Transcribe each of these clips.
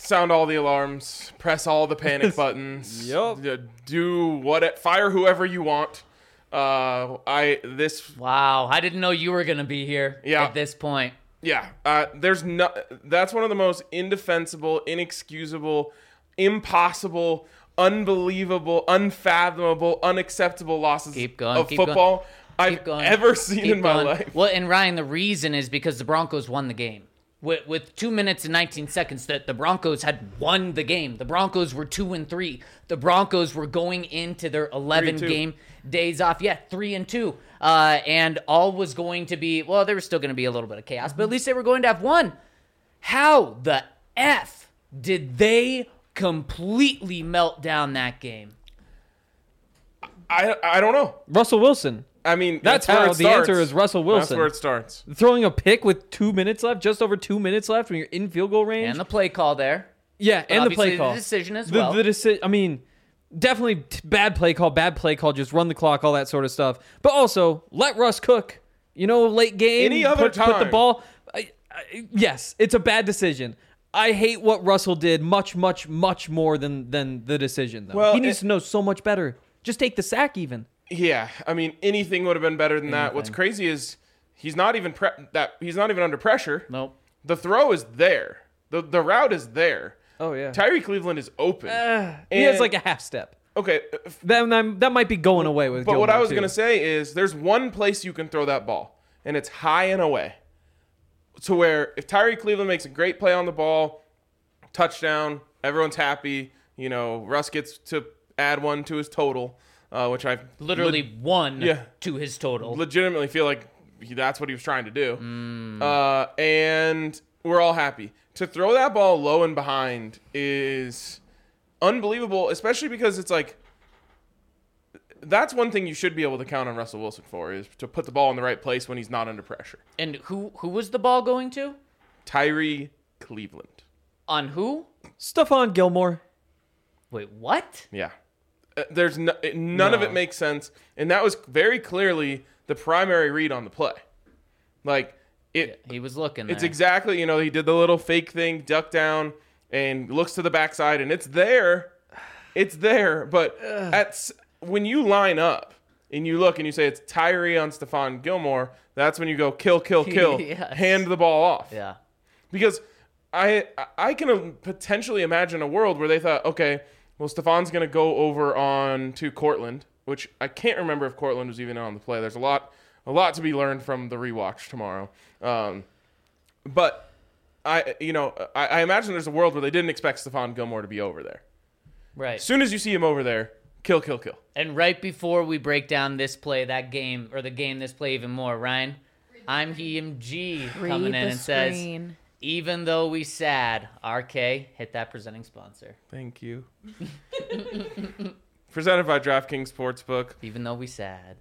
sound all the alarms, press all the panic buttons. Yup. Fire whoever you want. Wow, I didn't know you were gonna be here at this point. Yeah, that's one of the most indefensible, inexcusable, impossible, unbelievable, unfathomable, unacceptable losses of football I've ever seen in my life. Well, and Ryan, the reason is because the Broncos won the game. With 2 minutes and 19 seconds, that the Broncos had won the game. The Broncos were 2-3. The Broncos were going into their 11 game days off. Yeah, 3-2. And all was going to be, well, there was still going to be a little bit of chaos, but at least they were going to have won. How the F did they completely melt down that game? I don't know. Russell Wilson. I mean, that's how the answer is Russell Wilson. That's where it starts. Throwing a pick with 2 minutes left, just over 2 minutes left when you're in field goal range. And the play call there. Yeah, but and the play call. The decision as well. The decision, I mean, definitely bad play call, just run the clock, all that sort of stuff. But also, let Russ cook. Late game. Any other time. Put the ball. Yes, it's a bad decision. I hate what Russell did much, much, much more than the decision, though. Well, he needs to know so much better. Just take the sack even. Yeah, I mean, anything would have been better than that. What's crazy is he's not even under pressure. Nope. The throw is there. The route is there. Oh yeah. Tyree Cleveland is open. He has like a half step. Okay. That might be going away with. But Gilmore, what I was too. gonna say is, there's one place you can throw that ball, and it's high and away. To where if Tyree Cleveland makes a great play on the ball, touchdown, everyone's happy. Russ gets to add one to his total. Which I've literally won to his total. Legitimately feel like that's what he was trying to do. And we're all happy. To throw that ball low and behind is unbelievable, especially because it's like, that's one thing you should be able to count on Russell Wilson for, is to put the ball in the right place when he's not under pressure. And who was the ball going to? Tyree Cleveland. On who? Stephon Gilmore. Wait, what? Yeah. There's none of it makes sense, and that was very clearly the primary read on the play. He was looking. It's there. exactly, he did the little fake thing, duck down, and looks to the backside, and it's there. It's there, but when you line up and you look and you say it's Tyree on Stephon Gilmore, that's when you go kill, Yes. Hand the ball off. Yeah, because I can potentially imagine a world where they thought, okay, well, Stephon's going to go over on to Cortland, which I can't remember if Cortland was even on the play. There's a lot to be learned from the rewatch tomorrow. But I imagine there's a world where they didn't expect Stephon Gilmore to be over there. right. As soon as you see him over there, kill. And right before we break down this play, that game, or the game, this play even more, Ryan, I'm HeMG coming in and says, even though we sad, RK, hit that presenting sponsor. Thank you. Presented by DraftKings Sportsbook. Even though we sad.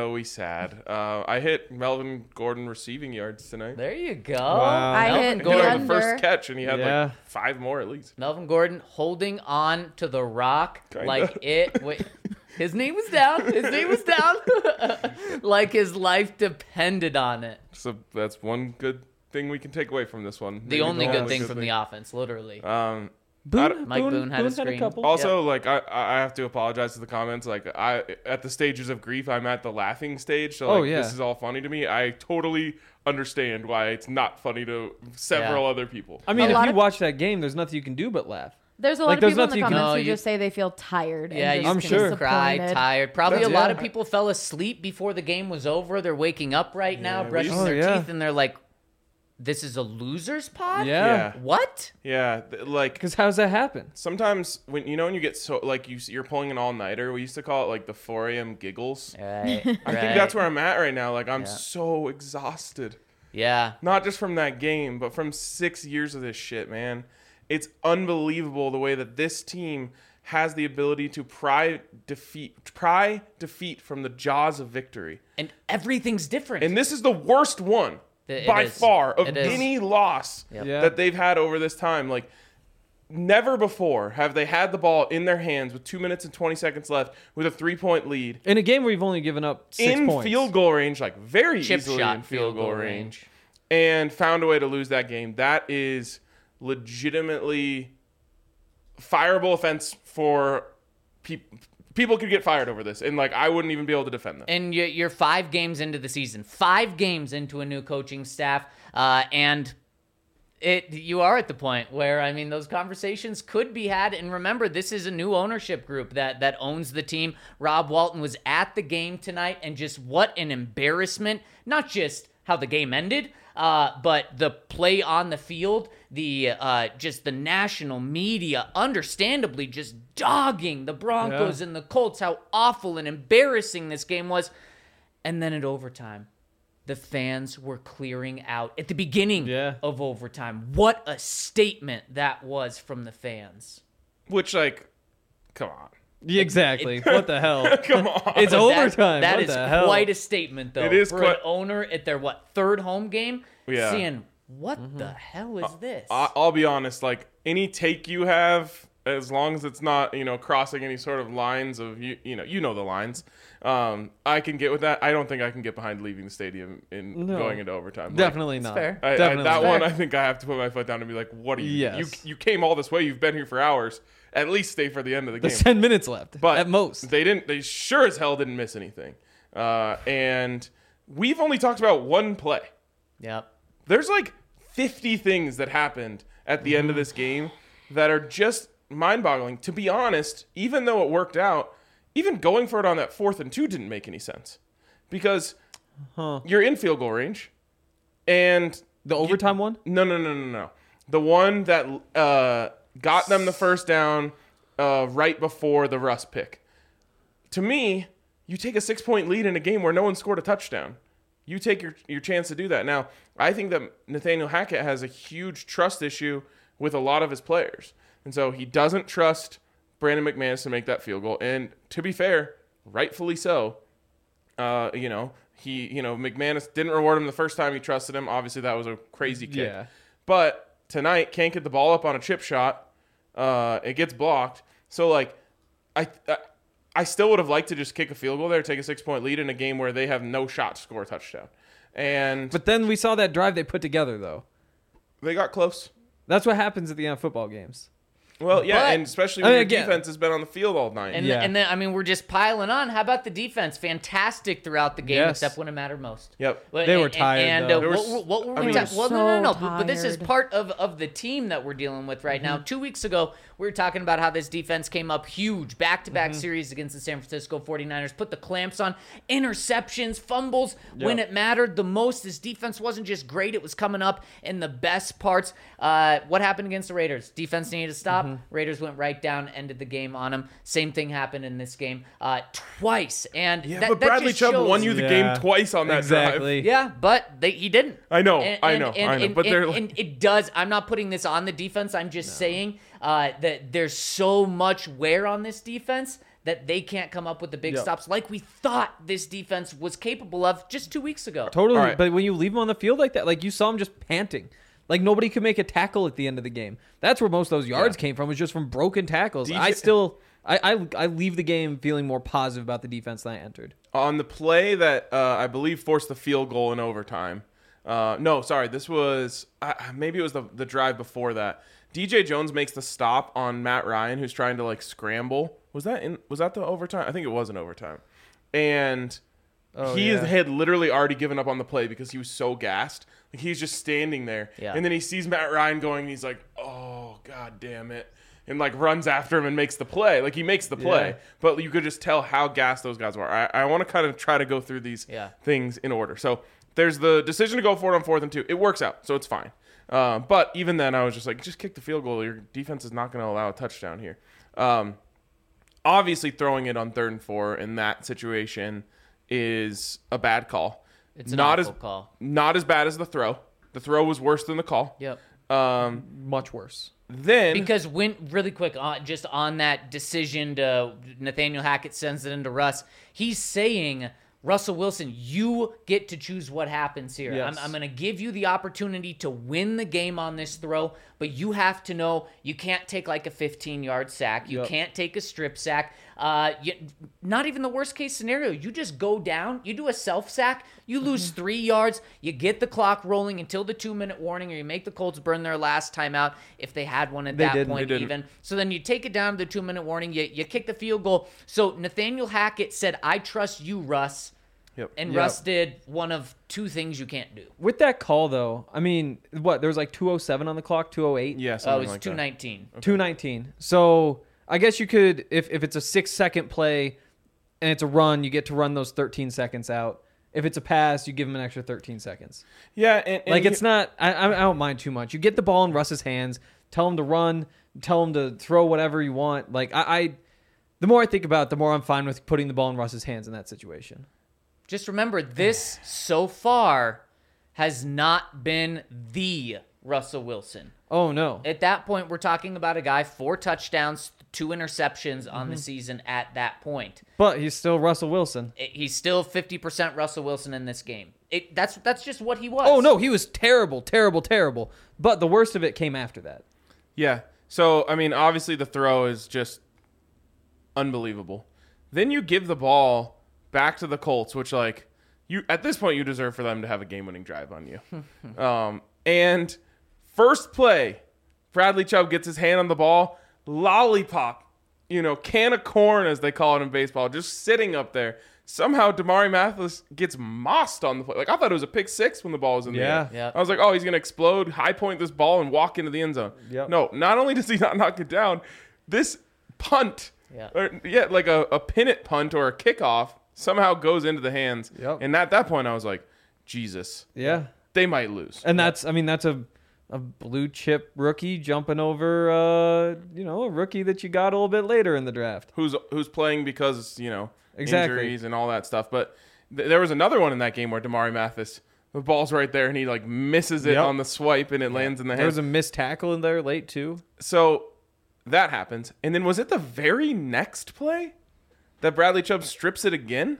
I hit Melvin Gordon receiving yards tonight. There you go. Wow. I hit The first catch, and he had Yeah. like 5 more at least. Melvin Gordon holding on to the rock Kinda. like it. Wait, his name was down. Like his life depended on it. So that's one good thing we can take away from this one. The only good thing from the offense, literally. Um, Mike Boone had a screen. Also, I have to apologize to the comments. At the stages of grief, I'm at the laughing stage. So this is all funny to me. I totally understand why it's not funny to several other people. I mean, if you watch that game, there's nothing you can do but laugh. There's a lot of people in the comments No, who you- just say they feel tired. Yeah, and you I'm just sure. cry, disappointed. tired. Probably That's- a lot yeah. of people fell asleep before the game was over. They're waking up right now, we brushing used- their teeth, and they're like, "This is a losers pod." Yeah. What? Yeah, Because how's that happen? sometimes when you get so you're pulling an all-nighter, we used to call it the 4 a.m. giggles. Right. I think that's where I'm at right now. I'm Yeah. so exhausted. Yeah. Not just from that game, but from 6 years of this shit, man. It's unbelievable the way that this team has the ability to pry defeat from the jaws of victory. And everything's different. And this is the worst one It by is. far of It is. any loss Yeah. that they've had over this time. Never before have they had the ball in their hands with 2 minutes and 20 seconds left with a 3-point lead. In a game where you've only given up 6 in points. field goal range, very Chip easily shot in field goal range, and found a way to lose that game. That is legitimately fireable offense for people. People could get fired over this, and like I wouldn't even be able to defend them. And you're 5 games into the season, 5 games into a new coaching staff, and you are at the point where, I mean, those conversations could be had. And remember, this is a new ownership group that owns the team. Rob Walton was at the game tonight, and just what an embarrassment. Not just how the game ended, but the play on the field, just the national media, understandably just dogging the Broncos and the Colts, how awful and embarrassing this game was. And then at overtime, the fans were clearing out at the beginning of overtime. What a statement that was from the fans. Which, like, come on. Yeah, exactly. What the hell? Come on. It's overtime. That what is the hell? quite a statement, though. It is for quite... an owner at their, 3rd home game? Yeah. Seeing, what the hell is this? I'll be honest, like, any take you have, as long as it's not, crossing any sort of lines of, you know the lines, I can get with that. I don't think I can get behind leaving the stadium and going into overtime. Definitely That's not. fair. Definitely one, I think I have to put my foot down and be like, what are you? Yes. You came all this way. You've been here for hours. At least stay for the end of the game. There's 10 minutes left, But at most. They sure as hell didn't miss anything. And we've only talked about one play. Yep. There's like 50 things that happened at the end of this game that are just mind-boggling. To be honest, even though it worked out, even going for it on that 4th and 2 didn't make any sense. Because you're in field goal range. And The overtime one? No. The one that got them the first down right before the Russ pick. To me, you take a 6-point lead in a game where no one scored a touchdown. You take your chance to do that. Now, I think that Nathaniel Hackett has a huge trust issue with a lot of his players. And so he doesn't trust Brandon McManus to make that field goal. And to be fair, rightfully so. McManus didn't reward him the first time he trusted him. Obviously, that was a crazy kick. Yeah. But tonight, can't get the ball up on a chip shot. It gets blocked. So, like, I still would have liked to just kick a field goal there, take a 6-point lead in a game where they have no shot to score a touchdown. But then we saw that drive they put together, though. They got close. That's what happens at the end of football games. Well, yeah, But, and especially when your defense has been on the field all night. And then, I mean, we're just piling on. How about the defense? Fantastic throughout the game, except when it mattered most. Yep. They were tired, though. What were we talking? Well, no. But this is part of the team that we're dealing with right now. 2 weeks ago, we were talking about how this defense came up huge. Back-to-back series against the San Francisco 49ers. Put the clamps on. Interceptions, fumbles. When it mattered the most, this defense wasn't just great. It was coming up in the best parts. What happened against the Raiders? Defense needed to stop. Raiders went right down, ended the game on them. Same thing happened in this game twice. And but Bradley Chubb won you the game twice on that drive. Yeah, but he didn't. I know. But it does. I'm not putting this on the defense. I'm just saying that there's so much wear on this defense that they can't come up with the big stops like we thought this defense was capable of just 2 weeks ago. Totally. Right. But when you leave them on the field like that, like you saw them just panting. Like nobody could make a tackle at the end of the game. That's where most of those yards came from, was just from broken tackles. I leave the game feeling more positive about the defense than I entered. On the play that I believe forced the field goal in overtime. This was maybe it was the drive before that. DJ Jones makes the stop on Matt Ryan, who's trying to like scramble. Was that the overtime? I think it was in overtime. And had literally already given up on the play because he was so gassed. Like he's just standing there. Yeah. And then he sees Matt Ryan going and he's like, "Oh, god damn it." And like runs after him and makes the play. Like he makes the play. But you could just tell how gassed those guys were. I want to kind of try to go through these things in order. So there's the decision to go for it on 4th and 2. It works out, so it's fine. But even then I was just like, just kick the field goal. Your defense is not going to allow a touchdown here. Obviously throwing it on 3rd and 4 in that situation is a bad call. It's an awful call. Not as bad as the throw. The throw was worse than the call. Yep. Much worse. Because really quick, just on that decision to Nathaniel Hackett sends it into Russ, he's saying Russell Wilson, you get to choose what happens here. Yes. I'm going to give you the opportunity to win the game on this throw, but you have to know you can't take like a 15-yard sack. You can't take a strip sack. Not even the worst case scenario. You just go down, you do a self sack, you lose 3 yards, you get the clock rolling until the 2-minute warning, or you make the Colts burn their last timeout if they had one at that point even. So then you take it down to the 2-minute warning, you kick the field goal. So Nathaniel Hackett said, I trust you, Russ. Yep. And Russ did one of two things you can't do. With that call, though, I mean, what? There was like 2:07 on the clock, 2:08? Yeah, It something was like 2:19. 2:19. So I guess you could, if it's a 6-second play and it's a run, you get to run those 13 seconds out. If it's a pass, you give him an extra 13 seconds. Yeah, and Like, it's not, I don't mind too much. You get the ball in Russ's hands, tell him to run, tell him to throw whatever you want. Like, the more I think about it, the more I'm fine with putting the ball in Russ's hands in that situation. Just remember, this so far has not been the Russell Wilson. Oh, no. At that point, we're talking about a guy, 4 touchdowns, 2 interceptions on the season at that point. But he's still Russell Wilson. He's still 50% Russell Wilson in this game. That's just what he was. Oh, no, he was terrible, terrible, terrible. But the worst of it came after that. Yeah. So, I mean, obviously the throw is just unbelievable. Then you give the ball back to the Colts, which, like, you at this point, you deserve for them to have a game-winning drive on you. And first play, Bradley Chubb gets his hand on the ball, lollipop, can of corn, as they call it in baseball, just sitting up there. Somehow, Damari Mathis gets mossed on the play. Like, I thought it was a pick six when the ball was in the air. Yeah. I was like, oh, he's going to explode, high point this ball, and walk into the end zone. Yep. No, not only does he not knock it down, this punt, like a pin it punt or a kickoff, somehow goes into the hands. Yep. And at that point, I was like, Jesus. Yeah. They might lose. And that's a blue chip rookie jumping over, a rookie that you got a little bit later in the draft. Who's playing because, Exactly. injuries and all that stuff. But there was another one in that game where Damari Mathis, the ball's right there, and he, like, misses it on the swipe, and it lands in the hands. There was a missed tackle in there late, too. So that happens. And then was it the very next play that Bradley Chubb strips it again?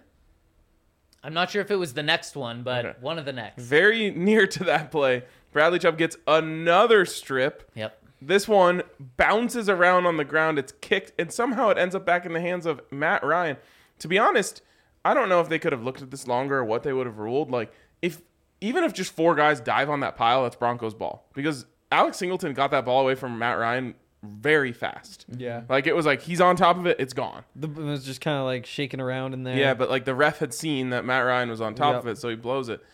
I'm not sure if it was the next one, but one of the next. Very near to that play, Bradley Chubb gets another strip. Yep. This one bounces around on the ground. It's kicked, and somehow it ends up back in the hands of Matt Ryan. To be honest, I don't know if they could have looked at this longer or what they would have ruled. Like, even if just 4 guys dive on that pile, that's Broncos ball. Because Alex Singleton got that ball away from Matt Ryan very fast. Yeah. Like, it was like he's on top of it, it's gone. It was just kind of like shaking around in there. Yeah, but like the ref had seen that Matt Ryan was on top of it, so he blows it.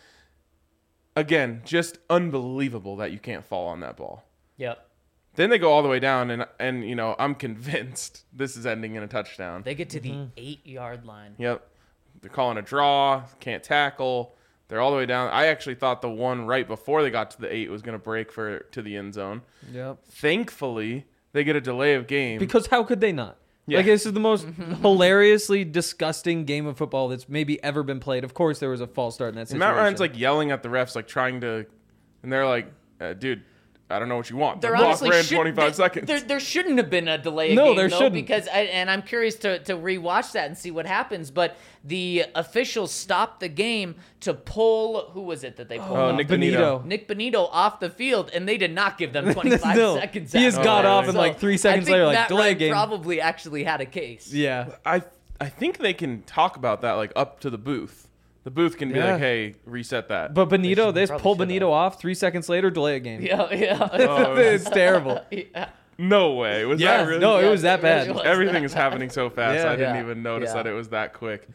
Again, just unbelievable that you can't fall on that ball. Yep. Then they go all the way down, and I'm convinced this is ending in a touchdown. They get to the 8-yard line. Yep. They're calling a draw, can't tackle. They're all the way down. I actually thought the one right before they got to the 8 was going to break to the end zone. Yep. Thankfully, they get a delay of game. Because how could they not? Yeah. Like, this is the most hilariously disgusting game of football that's maybe ever been played. Of course, there was a false start in that And situation. Matt Ryan's like yelling at the refs, like trying to, and they're like, dude, I don't know what you want. The There clock honestly ran should- 25 seconds. There shouldn't have been a delay of No, game, there though, shouldn't. because and I'm curious to rewatch that and see what happens. But the officials stopped the game to pull, who was it that they pulled? off Nick the- Bonito. Nick Bonito off the field, and they did not give them 25 No. seconds. He just after got that. off and, like, 3 seconds I think later, like, Matt delay Ryan game. probably actually had a case. Yeah. I think they can talk about that like up to the booth. The booth can be Yeah. like, hey, reset that. But Benito, they just probably pulled should Benito off. 3 seconds later, delay a game. Yeah. It's terrible. Yeah. No way. Was Yeah. that really? No, it Yeah, was that it really bad. was. Everything is happening so fast. Yeah. I didn't Yeah. even notice Yeah. that it was that quick.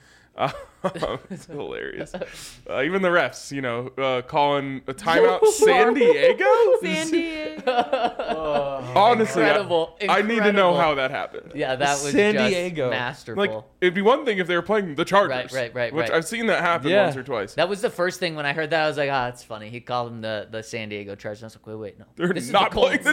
It's hilarious. Even the refs, calling a timeout. San Diego? Sandy. Honestly, Incredible. I need to know Incredible. how that happened. Yeah, that was San just Diego. masterful. Like, it'd be one thing if they were playing the Chargers. Right. Which I've seen that happen Yeah. once or twice. That was the first thing when I heard that. I was like, that's funny. He called him the San Diego Chargers. I was like, wait, no. They're This is not the playing the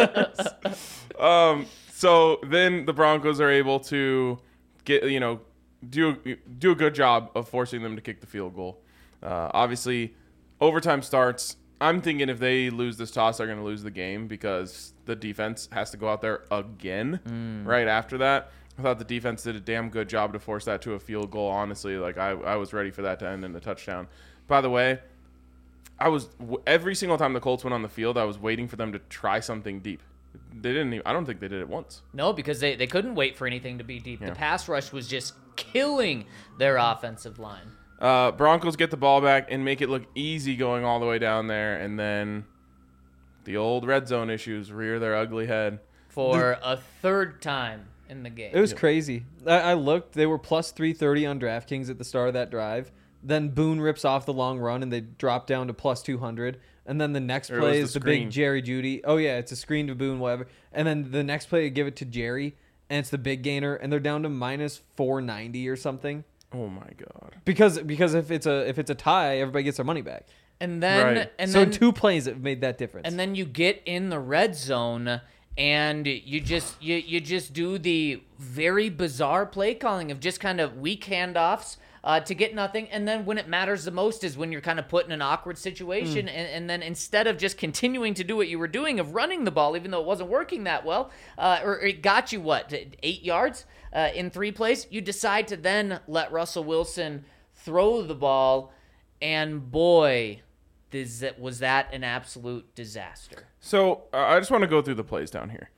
Colts. Chargers. So then the Broncos are able to get, do a good job of forcing them to kick the field goal. Obviously, overtime starts. I'm thinking if they lose this toss, they're going to lose the game because the defense has to go out there again right after that. I thought the defense did a damn good job to force that to a field goal. Honestly, like I was ready for that to end in a touchdown. By the way, every single time the Colts went on the field, I was waiting for them to try something deep. They didn't even, I don't think they did it once. No, because they couldn't wait for anything to be deep. Yeah. The pass rush was just killing their offensive line. Broncos get the ball back and make it look easy going all the way down there, and then the old red zone issues rear their ugly head. For a third time in the game. It was crazy. I looked. They were plus 330 on DraftKings at the start of that drive. Then Boone rips off the long run, and they drop down to plus 200. And then the next play is the big Jerry Jeudy. Oh, yeah, it's a screen to Boone, whatever. And then the next play, they give it to Jerry, and it's the big gainer, and they're down to minus 490 or something. Oh, my God. Because if it's a tie, everybody gets their money back. And then... Right. So 2 plays that made that difference. And then you get in the red zone... And you just do the very bizarre play calling of just kind of weak handoffs to get nothing. And then when it matters the most is when you're kind of put in an awkward situation. And then instead of just continuing to do what you were doing of running the ball, even though it wasn't working that well, or it got you, 8 yards in 3 plays, you decide to then let Russell Wilson throw the ball. And boy, was that an absolute disaster. So I just want to go through the plays down here.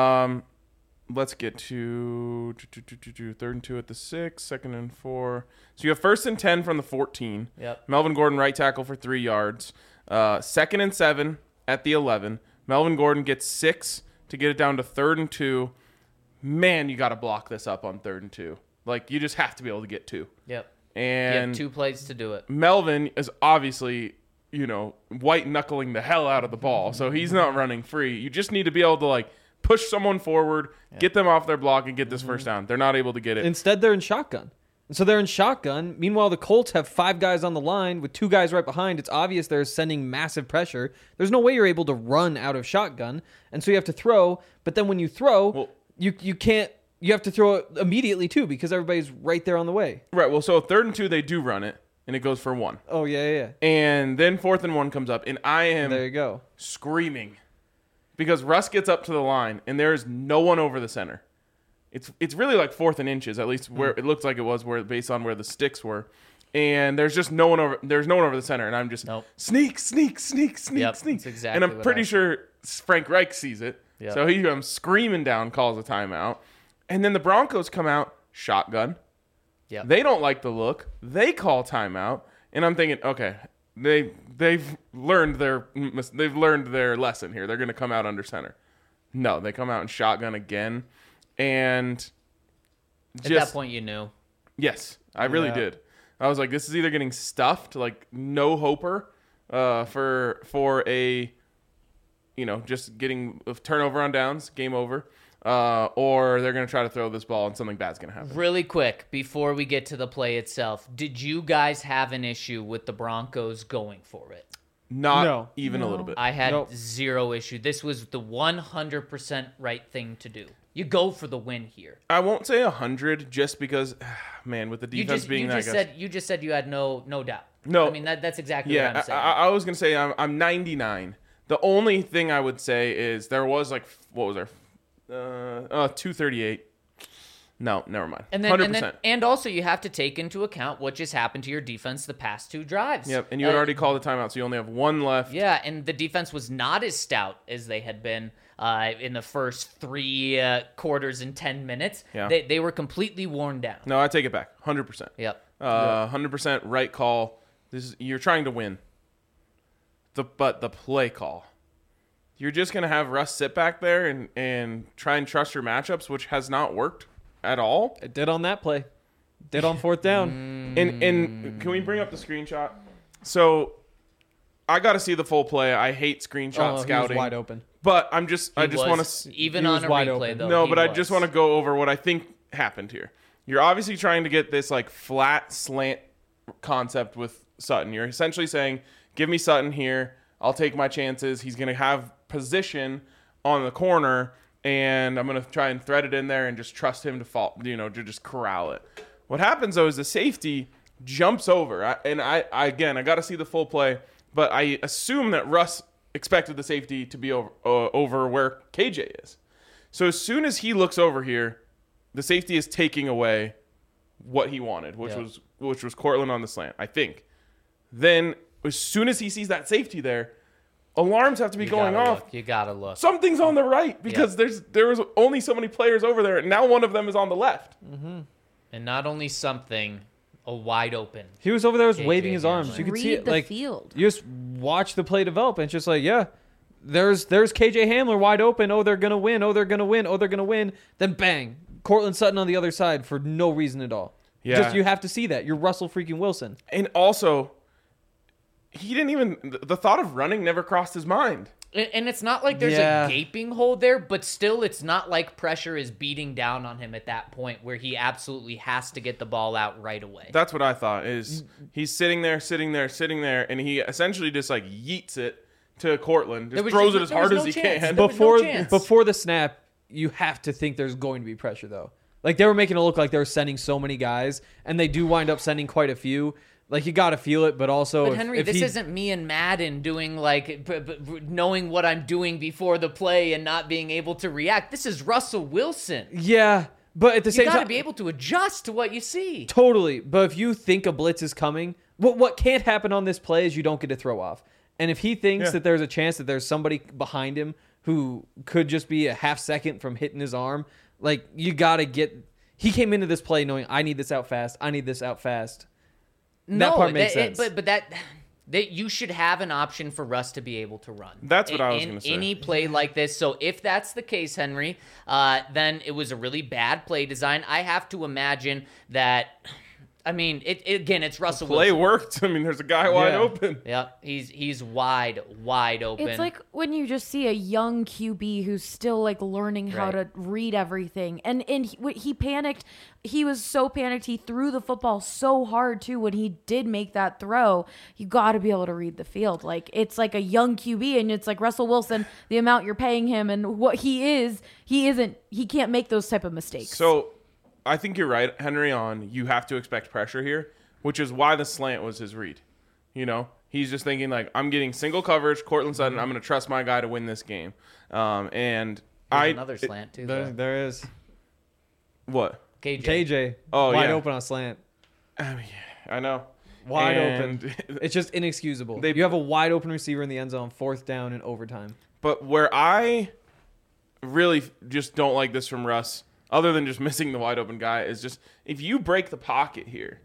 Let's get to 3rd and 2 at the 6, 2nd and 4. So you have 1st and 10 from the 14. Yep. Melvin Gordon right tackle for 3 yards. 2nd and 7 at the 11. Melvin Gordon gets 6 to get it down to 3rd and 2. Man, you got to block this up on 3rd and 2. Like, you just have to be able to get 2. Yep. And you have 2 plays to do it. Melvin is obviously... white knuckling the hell out of the ball. So he's not running free. You just need to be able to like push someone forward, get them off their block, and get this first down. They're not able to get it. Instead, they're in shotgun. So they're in shotgun. Meanwhile, the Colts have 5 guys on the line with 2 guys right behind. It's obvious they're sending massive pressure. There's no way you're able to run out of shotgun. And so you have to throw. But then when you throw, you can't. You have to throw it immediately too because everybody's right there on the way. Right. Well, so 3rd and 2, they do run it. And it goes for 1. Oh, yeah. And then 4th and 1 comes up, and I am there you go. Screaming. Because Russ gets up to the line, and there is no one over the center. It's really like 4th and inches, at least where it looks like it was, where based on where the sticks were. And there's just no one over the center, and I'm just sneak. That's exactly and I'm pretty sure Frank Reich sees it. Yep. So he comes screaming down, calls a timeout. And then the Broncos come out, shotgun. Yep. They don't like the look. They call timeout, and I'm thinking, okay, they've learned their lesson here. They're going to come out under center. No, they come out in shotgun again, and at that point you knew. Yes, I really did. I was like, this is either getting stuffed, like no hoper, for a, just getting a turnover on downs, game over. Or they're going to try to throw this ball and something bad's going to happen. Really quick, before we get to the play itself, did you guys have an issue with the Broncos going for it? Not even a little bit. I had zero issue. This was the 100% right thing to do. You go for the win here. I won't say 100 just because, man, with the defense being that good. You just said you had no doubt. No. I mean, that's exactly what I'm saying. I was going to say I'm 99. The only thing I would say is there was like, what was there? 238. No, never mind. 100%. And also you have to take into account what just happened to your defense the past 2 drives. Yep, and you had already called a timeout, so you only have 1 left. Yeah, and the defense was not as stout as they had been in the first 3 quarters and 10 minutes. Yeah. They were completely worn down. No, I take it back. 100%. Yep. 100% right call. You're trying to win. But the play call. You're just going to have Russ sit back there and try and trust your matchups, which has not worked at all. It did on that play. Did on 4th down. And can we bring up the screenshot? So I got to see the full play. I hate screenshot scouting. He was wide open. But I just want to... Even on a replay, though. No, but I just want to go over what I think happened here. You're obviously trying to get this like flat slant concept with Sutton. You're essentially saying, give me Sutton here. I'll take my chances. He's going to have position on the corner, and I'm going to try and thread it in there and just trust him to fall, to just corral it. What happens, though, is the safety jumps over. I got to see the full play, but I assume that Russ expected the safety to be over where KJ is. So as soon as he looks over here, the safety is taking away what he wanted, which was Courtland on the slant, I think. Then as soon as he sees that safety there, alarms have to be going off. You gotta look. Something's on the right because there was only so many players over there, and now one of them is on the left. Mm-hmm. And not only something, a wide open. He was over there, was KJ waving his arms. Hamler. You could Read see it. the Like field. you just watch the play develop, and it's just like, yeah, there's KJ Hamler wide open. Oh, they're gonna win. Oh, they're gonna win. Oh, they're gonna win. Then bang, Cortland Sutton on the other side for no reason at all. Yeah. Just you have to see that. You're Russell freaking Wilson. And also, he didn't even the thought of running never crossed his mind. And it's not like there's a gaping hole there, but still it's not like pressure is beating down on him at that point where he absolutely has to get the ball out right away. That's what I thought is he's sitting there, and he essentially just like yeets it to Cortland, just throws it as hard as he can. Before the snap, you have to think there's going to be pressure though. Like they were making it look like they were sending so many guys, and they do wind up sending quite a few. Like you got to feel it, but also. But Henry, this isn't me and Madden doing like knowing what I'm doing before the play and not being able to react. This is Russell Wilson. Yeah, but at the same time, you got to be able to adjust to what you see. Totally, but if you think a blitz is coming, what can't happen on this play is you don't get to throw off. And if he thinks that there's a chance that there's somebody behind him who could just be a half second from hitting his arm, like you got to get. He came into this play knowing I need this out fast. I need this out fast. That part makes sense. But that you should have an option for Russ to be able to run. That's what I was going to say. Any play like this. So if that's the case, Henry, then it was a really bad play design. I have to imagine that. I mean, it's Russell Wilson. Play Wilson. worked. I mean, there's a guy wide open. Yeah, he's wide open. It's like when you just see a young QB who's still like learning how to read everything, and he panicked. He was so panicked. He threw the football so hard too. When he did make that throw, you got to be able to read the field. Like it's like a young QB, and it's like Russell Wilson. The amount you're paying him and what he can't make those type of mistakes. So. I think you're right, Henry, on you have to expect pressure here, which is why the slant was his read. You know, he's just thinking like, I'm getting single coverage, Courtland Sutton, I'm going to trust my guy to win this game. And there's another slant too. There is. What? KJ. Oh, wide open on slant. I mean, I know. Wide open. It's just inexcusable. You have a wide open receiver in the end zone, 4th down in overtime. But where I really just don't like this from Russ, other than just missing the wide open guy, is just if you break the pocket here,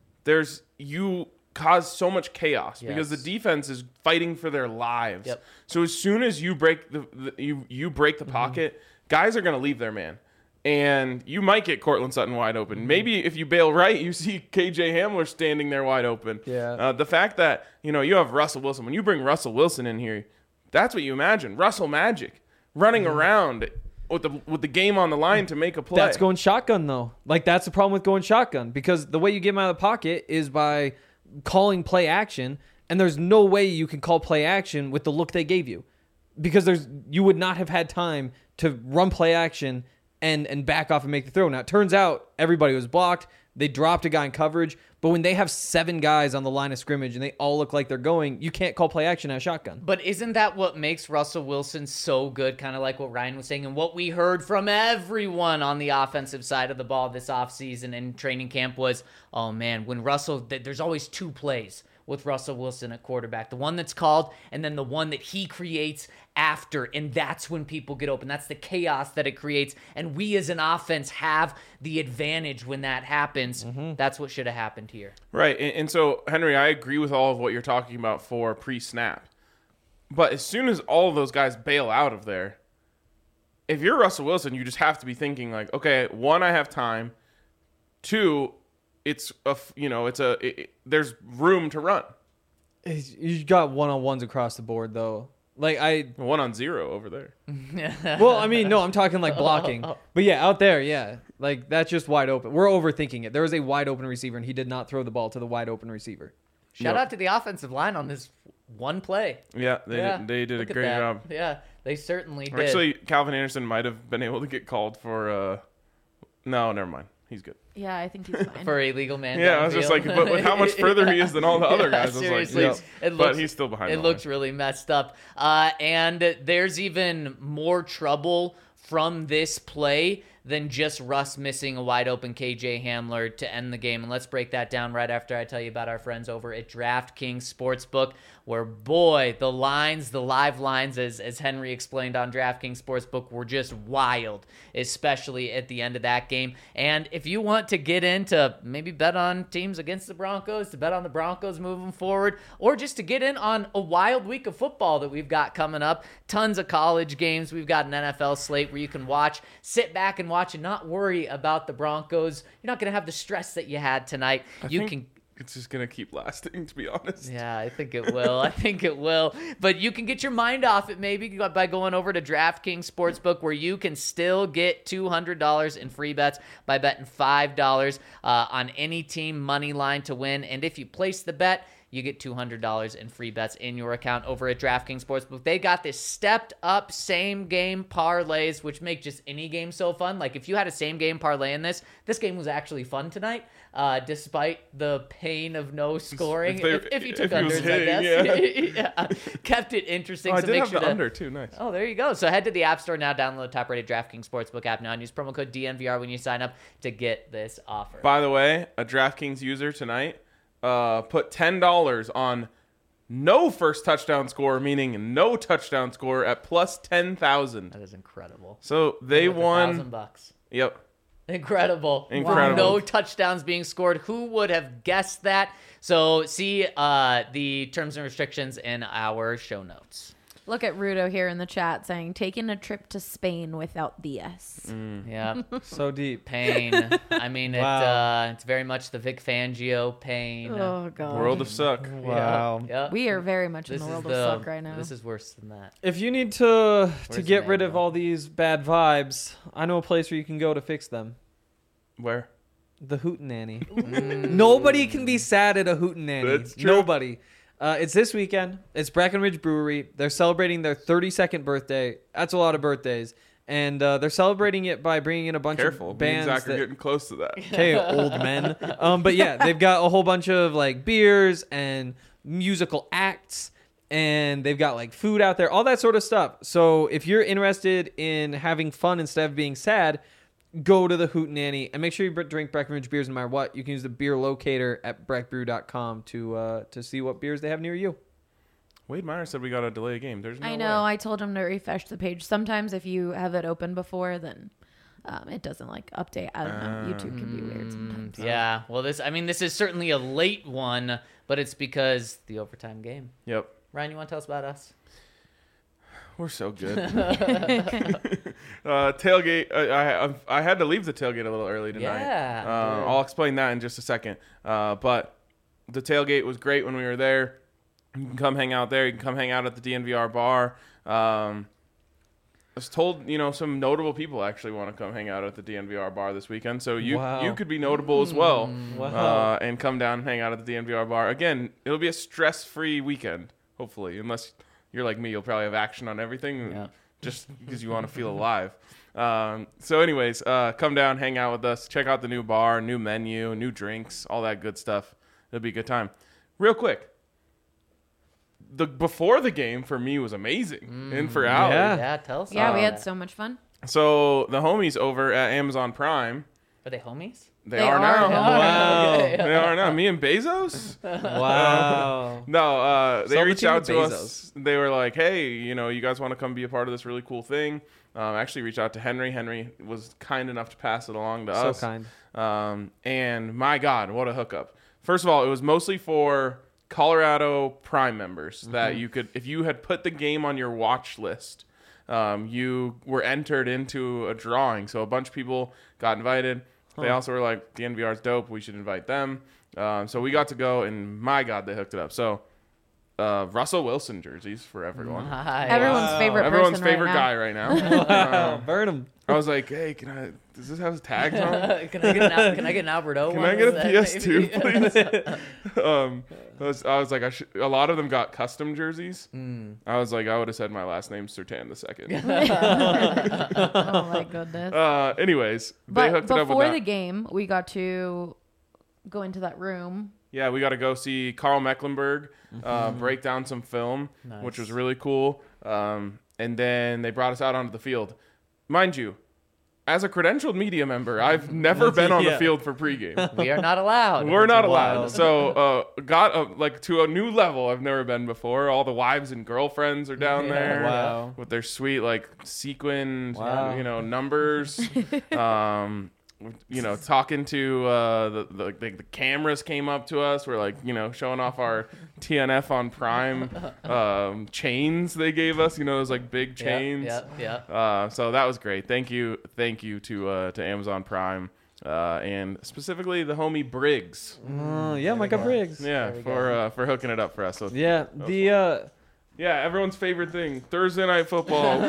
you cause so much chaos because the defense is fighting for their lives. Yep. So as soon as you break the pocket, guys are going to leave their man. And you might get Courtland Sutton wide open. Maybe if you bail right, you see KJ Hamler standing there wide open. Yeah. The fact that you have Russell Wilson, when you bring Russell Wilson in here, that's what you imagine. Russell Magic running around with the game on the line to make a play. That's going shotgun, though. Like, that's the problem with going shotgun, because the way you get him out of the pocket is by calling play action, and there's no way you can call play action with the look they gave you, because you would not have had time to run play action and back off and make the throw. Now, it turns out everybody was blocked. They dropped a guy in coverage, but when they have 7 guys on the line of scrimmage and they all look like they're going, you can't call play action at shotgun. But isn't that what makes Russell Wilson so good, kind of like what Ryan was saying and what we heard from everyone on the offensive side of the ball this offseason and training camp was, oh man, when there's always 2 plays with Russell Wilson at quarterback. The one that's called and then the one that he creates after, and that's when people get open. That's the chaos that it creates, and we as an offense have the advantage when that happens. Mm-hmm. That's what should have happened here. Right, and so, Henry, I agree with all of what you're talking about for pre-snap. But as soon as all of those guys bail out of there, if you're Russell Wilson, you just have to be thinking like, okay, 1, I have time. 2, there's room to run. You got one-on-ones across the board, though. Like 1-on-0 over there. Well, I mean, no, I'm talking like blocking. But yeah, out there, yeah. Like that's just wide open. We're overthinking it. There was a wide open receiver and he did not throw the ball to the wide open receiver. Shout out to the offensive line on this one play. Yeah, they did a great job. Yeah, they certainly did. Actually, Calvin Anderson might have been able to get called for no, never mind. He's good. Yeah, I think he's fine. For illegal man. Yeah, I was just like, but with how much further he is than all the other guys, I was seriously, like, but he's still behind. It looks really messed up. And there's even more trouble from this play than just Russ missing a wide open KJ Hamler to end the game. And let's break that down right after I tell you about our friends over at DraftKings Sportsbook, where, boy, the lines, the live lines, as Henry explained on DraftKings Sportsbook, were just wild, especially at the end of that game. And if you want to get into maybe bet on teams against the Broncos, to bet on the Broncos moving forward, or just to get in on a wild week of football that we've got coming up, tons of college games. We've got an NFL slate where you can watch, sit back and watch and not worry about the Broncos. You're not going to have the stress that you had tonight. It's just going to keep lasting, to be honest. Yeah, I think it will. I think it will. But you can get your mind off it maybe by going over to DraftKings Sportsbook, where you can still get $200 in free bets by betting $5 on any team money line to win. And if you place the bet, you get $200 in free bets in your account over at DraftKings Sportsbook. They got this stepped up same game parlays, which make just any game so fun. Like if you had a same game parlay in this game was actually fun tonight, despite the pain of no scoring. If you took unders, I guess. Yeah. Kept it interesting. Oh, I did have the under too. Nice. Oh, there you go. So head to the App Store now, download the top-rated DraftKings Sportsbook app now, and use promo code DNVR when you sign up to get this offer. By the way, a DraftKings user tonight put $10 on no first touchdown score, meaning no touchdown score, at plus 10,000. That is incredible. So they won $1,000. Yep. Incredible. No touchdowns being scored. Who would have guessed that? So see the terms and restrictions in our show notes. Look at Rudo here in the chat saying, taking a trip to Spain without the S. Yeah. So deep. Pain. I mean, Wow. it's very much the Vic Fangio pain. Oh, God. World of suck. Wow. Yep. We are very much in the world of suck right now. This is worse than that. If you need to Where's get rid of Emmanuel? all these bad vibes, I know a place where you can go to fix them. Where? The Hootenanny. Nobody can be sad at a Hootenanny. That's true. Nobody. It's this weekend. It's Breckenridge Brewery. They're celebrating their 32nd birthday. That's a lot of birthdays. And they're celebrating it by bringing in a bunch Careful. of bands. Me and Zach are getting close to that. Okay, old men. But yeah, they've got a whole bunch of like beers and musical acts. And they've got like food out there, all that sort of stuff. So if you're interested in having fun instead of being sad, go to the Hootenanny and make sure you drink Breckenridge beers no matter what. You can use the beer locator at breckbrew.com to see what beers they have near you. Wade Meyer said we got to delay a game. There's no I know. way. I told him to refresh the page. Sometimes if you have it open before, then it doesn't like update. I don't know. YouTube can be weird sometimes. Yeah. Well, this is certainly a late one, but it's because the overtime game. Yep. Ryan, you want to tell us about us? We're so good. Tailgate. I had to leave the tailgate a little early tonight. Yeah. I'll explain that in just a second. But the tailgate was great when we were there. You can come hang out there. You can come hang out at the DNVR bar. I was told, some notable people actually want to come hang out at the DNVR bar this weekend. So you could be notable as well. Wow. And come down and hang out at the DNVR bar. Again, it'll be a stress-free weekend, hopefully, unless you're like me. You'll probably have action on everything just because you want to feel alive. So anyways, come down, hang out with us. Check out the new bar, new menu, new drinks, all that good stuff. It'll be a good time. Real quick. Before the game for me was amazing. And for Allie. Yeah, tell us. Yeah, we had so much fun. So the homies over at Amazon Prime. Are they homies? They are now. Wow. They are now. Me and Bezos? Wow. No, they Sell the reached team out to to Bezos. us. They were like, hey, you guys want to come be a part of this really cool thing? Actually reached out to Henry. Henry was kind enough to pass it along to us. So kind. And my God, what a hookup. First of all, it was mostly for Colorado Prime members that you could, if you had put the game on your watch list, you were entered into a drawing. So a bunch of people got invited. They also were like, the NVR's dope. We should invite them. So we got to go, and my God, they hooked it up. So Russell Wilson jerseys for everyone. Nice. Everyone's favorite Everyone's person favorite right now. guy right now. Wow. Burn them. I was like, hey, does this have tags on? Can I get an Albert O? Can one I get a of that, PS2, maybe? please? I was like, a lot of them got custom jerseys. I was like, I would have said my last name's Sertan II. Oh my goodness. Anyways, they But hooked it up with before that. the game, we got to go into that room. Yeah, we got to go see Carl Mecklenburg break down some film, which was really cool. And then they brought us out onto the field. Mind you, as a credentialed media member, I've never been on the field for pregame. We are not allowed. We're not allowed. So got to a new level I've never been before. All the wives and girlfriends are down there. Wow. With their sweet sequined Wow. numbers. Talking to the cameras came up to us. We're showing off our TNF on Prime chains they gave us. Those big chains. Yeah. So that was great. Thank you to Amazon Prime and specifically the homie Briggs. Micah Briggs. Yeah, for hooking it up for us. So Yeah, everyone's favorite thing, Thursday Night Football.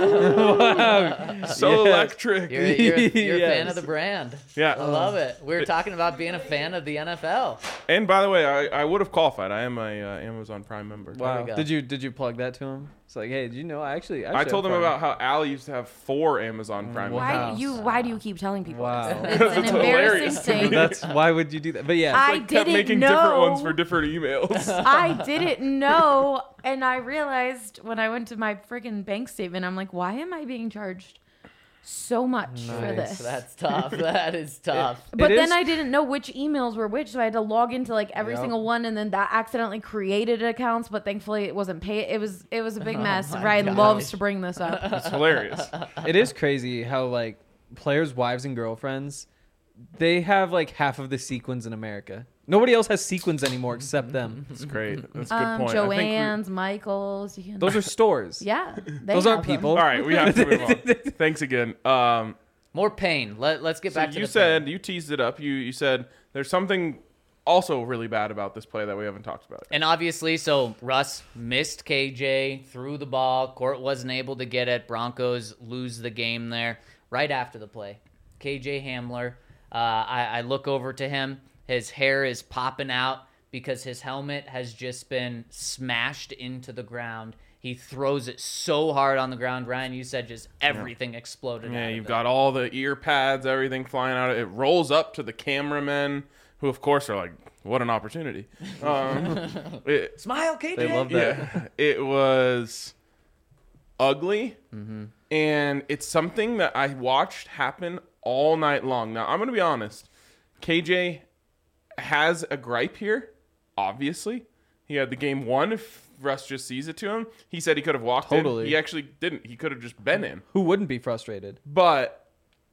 So electric. You're a fan of the brand. Yeah. I love it. We were talking about being a fan of the NFL. And by the way, I would have qualified. I am a Amazon Prime member. Wow. go. Did you plug that to him? It's like, hey, did you know I actually I told him have about how Allie used to have 4 Amazon Prime Wow. members. Why do you keep telling people Wow. this? It's an embarrassing hilarious. thing. That's why would you do that? But yeah, I Kept didn't making know. different ones for different emails. I didn't know, and I realized when I went to my freaking bank statement, I'm like, why am I being charged so much for this? That's tough. That is tough. But It then is- I didn't know which emails were which, so I had to log into every Yep. single one, and then that accidentally created accounts. But thankfully, it wasn't paid. It was a big mess. my Ryan gosh. loves to bring this up. It's hilarious. it is crazy how players' wives and girlfriends, they have half of the sequins in America. Nobody else has sequins anymore except them. It's great. That's a good point. I think Joanne's, Michael's. You can, Those are stores. yeah. They Those aren't have them. people. all right, we have to move on. Thanks again. More pain. Let's get So back to you the said pain. you teased it up. You said there's something also really bad about this play that we haven't talked about. And obviously, so Russ missed KJ, threw the ball. Court wasn't able to get it. Broncos lose the game there right after the play. KJ Hamler, I look over to him. His hair is popping out because his helmet has just been smashed into the ground. He throws it so hard on the ground. Ryan, you said just everything exploded. Yeah, out of you've it. got all the ear pads, everything flying out. It rolls up to the cameramen, who of course are like, "What an opportunity!" Smile, KJ. They love that. Yeah, it was ugly, and it's something that I watched happen all night long. Now I'm gonna be honest, KJ has a gripe here. Obviously, he had the game won. If Russ just sees it to him, he said he could have walked Totally. in. He actually didn't. He could have just been in. Who wouldn't be frustrated? But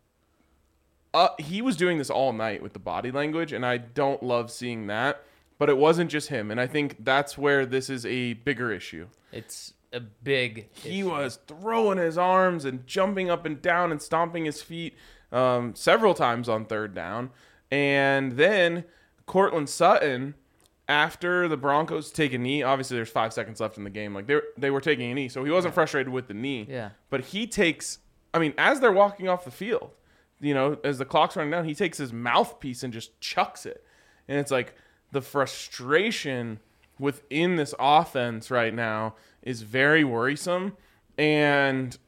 he was doing this all night with the body language, and I don't love seeing that. But it wasn't just him, and I think that's where this is a bigger issue. It's a big He issue. was throwing his arms and jumping up and down and stomping his feet several times on third down. And then Cortland Sutton, after the Broncos take a knee, obviously there's 5 seconds left in the game. They were taking a knee, so he wasn't frustrated with the knee. Yeah. But he takes, as they're walking off the field, as the clock's running down, he takes his mouthpiece and just chucks it. And it's like the frustration within this offense right now is very worrisome. And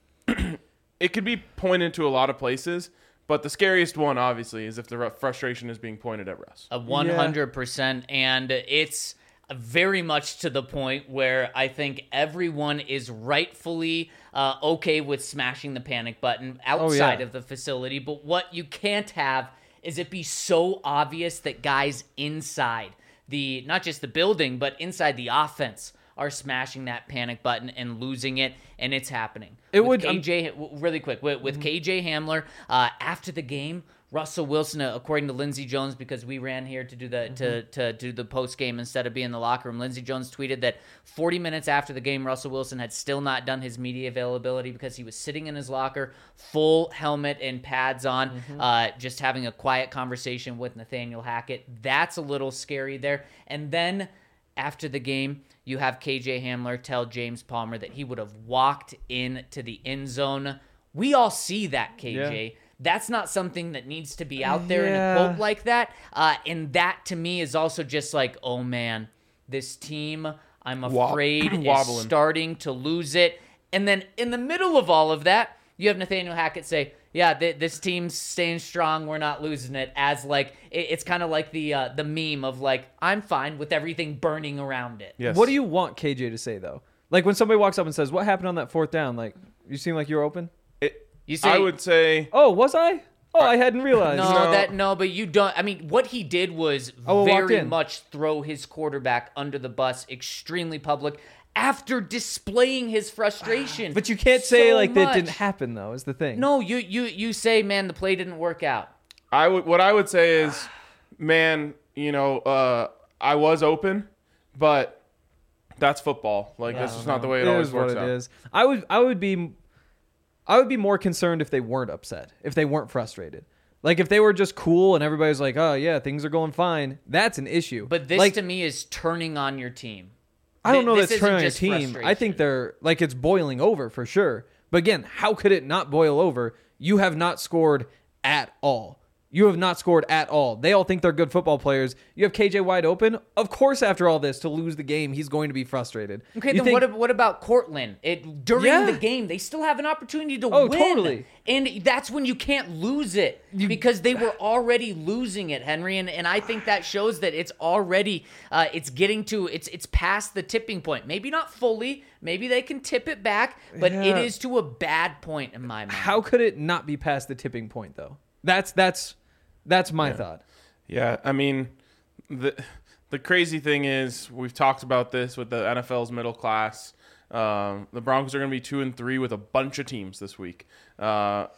it could be pointed to a lot of places. But the scariest one, obviously, is if the frustration is being pointed at Russ. 100%. And it's very much to the point where I think everyone is rightfully okay with smashing the panic button outside of the facility. But what you can't have is it be so obvious that guys inside not just the building, but inside the offense are smashing that panic button and losing it, and it's happening. KJ, really quick, with KJ Hamler, after the game, Russell Wilson, according to Lindsey Jones, because we ran here to do the to do the post game instead of being in the locker room. Lindsey Jones tweeted that 40 minutes after the game, Russell Wilson had still not done his media availability because he was sitting in his locker, full helmet and pads on, just having a quiet conversation with Nathaniel Hackett. That's a little scary there. And then after the game, you have KJ Hamler tell James Palmer that he would have walked into the end zone. We all see that, KJ. Yeah. That's not something that needs to be out there in a quote like that. And that, to me, is also just like, oh, man, this team, I'm afraid, is starting to lose it. And then in the middle of all of that, you have Nathaniel Hackett say, yeah, this team's staying strong. We're not losing it. As it's kind of like the meme of I'm fine with everything burning around it. Yes. What do you want KJ to say though? When somebody walks up and says, "What happened on that fourth down?" You seem like you're open. You say, I would say. Oh, was I? Oh, I hadn't realized. No, but you don't. I mean, what he did was very much throw his quarterback under the bus, extremely public, after displaying his frustration. But you can't say like that didn't happen, though. Is the thing? No, you say, man, the play didn't work out. What I would say is, man, I was open, but that's football. Like that's just not the way it always works out. It is. I would be more concerned if they weren't upset, if they weren't frustrated. Like if they were just cool and everybody's like, oh yeah, things are going fine. That's an issue. But this to me is turning on your team. I don't know that's turning on your team. I think they're like it's boiling over for sure. But again, how could it not boil over? You have not scored at all. You have not scored at all. They all think they're good football players. You have KJ wide open. Of course, after all this, to lose the game, he's going to be frustrated. Okay, then what about Cortland? During the game, they still have an opportunity to win. Oh, totally. And that's when you can't lose it because they were already losing it, Henry. And I think that shows that it's already it's getting to it's past the tipping point. Maybe not fully. Maybe they can tip it back, but it is to a bad point in my mind. How could it not be past the tipping point though? That's my thought. Yeah, I mean, the crazy thing is we've talked about this with the NFL's middle class. The Broncos are going to be 2-3 with a bunch of teams this week. Now,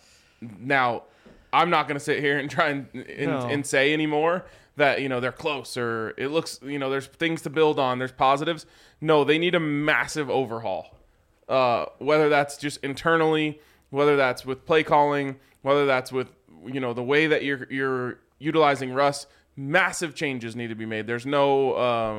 I'm not going to sit here and try and say anymore that they're close or it looks there's things to build on. There's positives. No, they need a massive overhaul. Whether that's just internally, whether that's with play calling, whether that's with the way that you're utilizing Russ, massive changes need to be made. There's no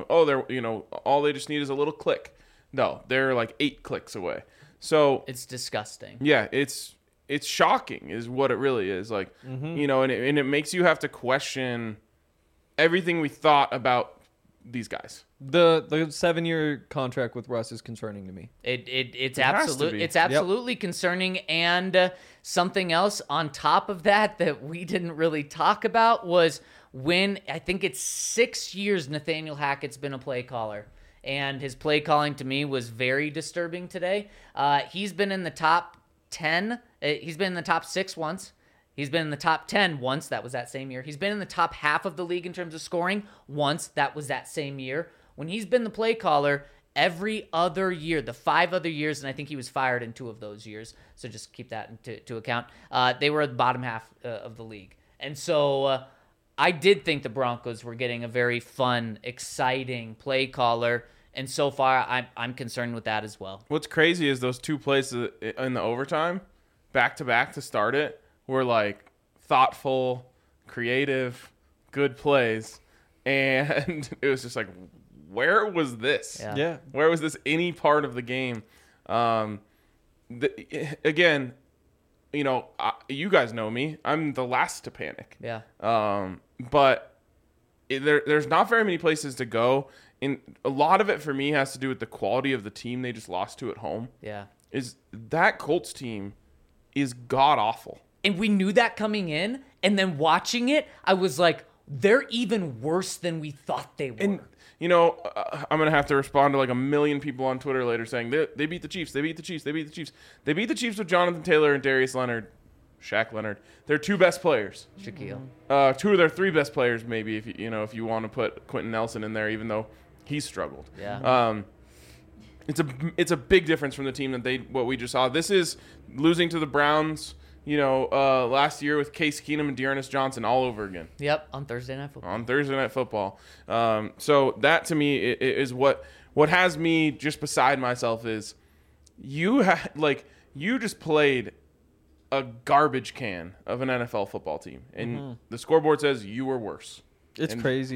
all they just need is a little click. No, they're like 8 clicks away. So it's disgusting. Yeah, it's shocking is what it really is. Like, and it makes you have to question everything we thought about these guys. The 7-year contract with Russ is concerning to me. It's absolutely concerning. And something else on top of that we didn't really talk about was when I think it's 6 years Nathaniel Hackett's been a play caller. And his play calling to me was very disturbing today. He's been in the top 10. He's been in the top 6 once. He's been in the top 10 once. That was that same year. He's been in the top half of the league in terms of scoring once. That was that same year. When he's been the play caller every other year, the 5 other years, and I think he was fired in 2 of those years, so just keep that into account, they were at the bottom half of the league. And so I did think the Broncos were getting a very fun, exciting play caller, and so far I'm concerned with that as well. What's crazy is those 2 plays in the overtime, back-to-back to start it, were like thoughtful, creative, good plays, and it was just like, where was this? Yeah. Where was this any part of the game? Again, you guys know me. I'm the last to panic. Yeah. But there's not very many places to go. And a lot of it for me has to do with the quality of the team they just lost to at home. Yeah. Is that Colts team is god-awful. And we knew that coming in, and then watching it, I was like, they're even worse than we thought they were. And, I'm going to have to respond to like 1 million people on Twitter later saying, they beat the Chiefs, they beat the Chiefs, they beat the Chiefs. They beat the Chiefs with Jonathan Taylor and Darius Leonard, Shaq Leonard. They're 2 best players. Shaquille. 2 of their 3 best players, maybe, if you want to put Quentin Nelson in there, even though he's struggled. Yeah. It's a big difference from the team what we just saw. This is losing to the Browns, last year with Case Keenum and Dearness Johnson all over again. Yep, on Thursday Night Football. So that to me is what has me just beside myself is you just played a garbage can of an NFL football team, and the scoreboard says you were worse. It's crazy.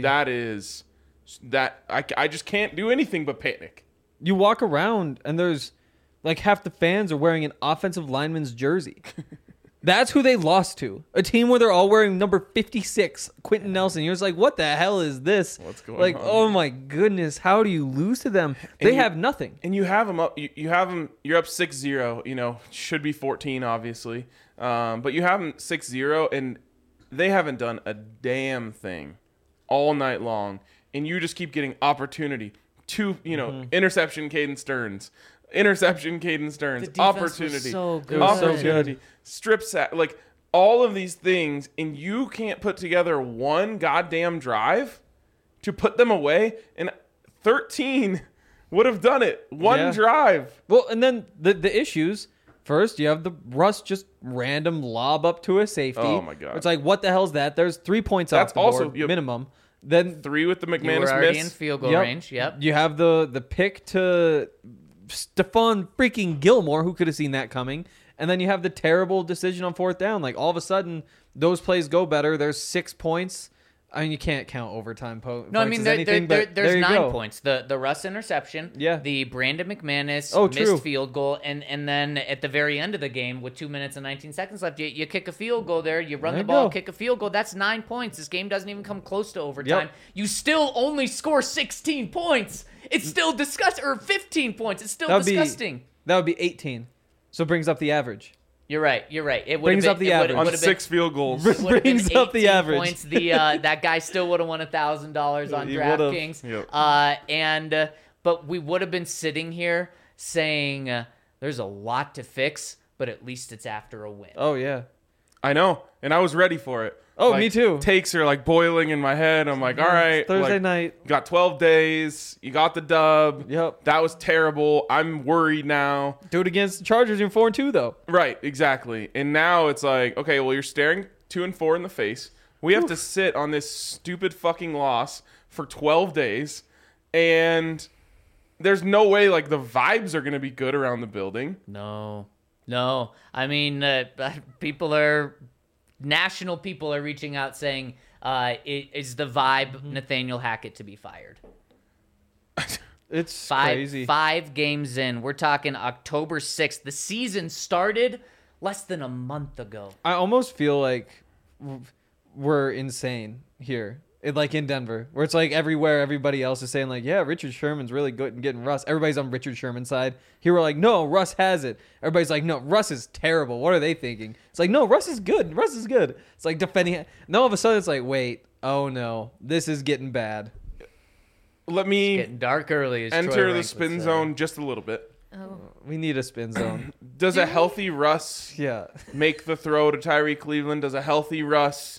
I just can't do anything but panic. You walk around and there's like half the fans are wearing an offensive lineman's jersey. That's who they lost to. A team where they're all wearing number 56, Quentin Nelson. You're just like, what the hell is this? What's going on? Oh my goodness, how do you lose to them? They have nothing. And you have them up. You have them. You're up 6-0. Should be 14, obviously. But you have them 6-0, and they haven't done a damn thing all night long. And you just keep getting opportunity. Interception, Caden Stearns. interception, Caden Stearns, The defense was opportunity, so good. It was so opportunity, strip sack, like all of these things, and you can't put together one goddamn drive to put them away. And 13 would have done it. One drive. Well, and then the issues. First, you have the Russ just random lob up to a safety. Oh, my God. It's like, what the hell's that? There's 3 points That's off the also- board, yep. minimum. Then 3 with the You were McManus already in miss. field goal Yep. range. Yep. you have the pick to Stephon freaking Gilmore, who could have seen that coming. And then you have the terrible decision on 4th down. Like, all of a sudden, those plays go better. There's 6 points. I mean, you can't count overtime points. No, I mean as there, anything, there, but there's there you 9 go. points. The Russ interception, Yeah. the Brandon McManus Oh, true. missed field goal, and then at the very end of the game, with 2 minutes and 19 seconds left, you kick a field goal there. You run There the you ball, go. kick a field goal. That's 9 points. This game doesn't even come close to overtime. Yep. You still only score 16 points. It's still disgusting. Or 15 points. It's still disgusting. That would be 18. So it brings up the average. You're right. You're right. It Brings would've up the been- it average. would've- On would've been- 6 field goals. It would've been Brings up the 18 average. Points. That guy still would have won $1,000 on He would've. DraftKings. Yep. But we would have been sitting here saying there's a lot to fix, but at least it's after a win. Oh, yeah. I know, and I was ready for it. Oh, Like, me too. Takes are like boiling in my head. I'm like, all right, Thursday like, night. you got 12 days. You got the dub. Yep. That was terrible. I'm worried now. Do it against the Chargers in 4-2, though. Right, exactly. And now it's like, okay, well, you're staring 2-4 in the face. We have to sit on this stupid fucking loss for 12 days, and there's no way like the vibes are gonna be good around the building. No. I mean, national people are reaching out saying, is the vibe Nathaniel Hackett to be fired? It's crazy. 5 games in. We're talking October 6th. The season started less than a month ago. I almost feel like we're insane here. Like in Denver, where it's like everywhere everybody else is saying like, yeah, Richard Sherman's really good in getting Russ. Everybody's on Richard Sherman's side. Here we're like, no, Russ has it. Everybody's like, no, Russ is terrible. What are they thinking? It's like, no, Russ is good. Russ is good. It's like defending. No, all of a sudden it's like, wait, oh no, this is getting bad. Let me Getting dark early. As Troy enter the Rank would spin say. zone just a little bit. We need a spin zone. Does a healthy Russ Yeah. make the throw to Tyree Cleveland? Does a healthy Russ,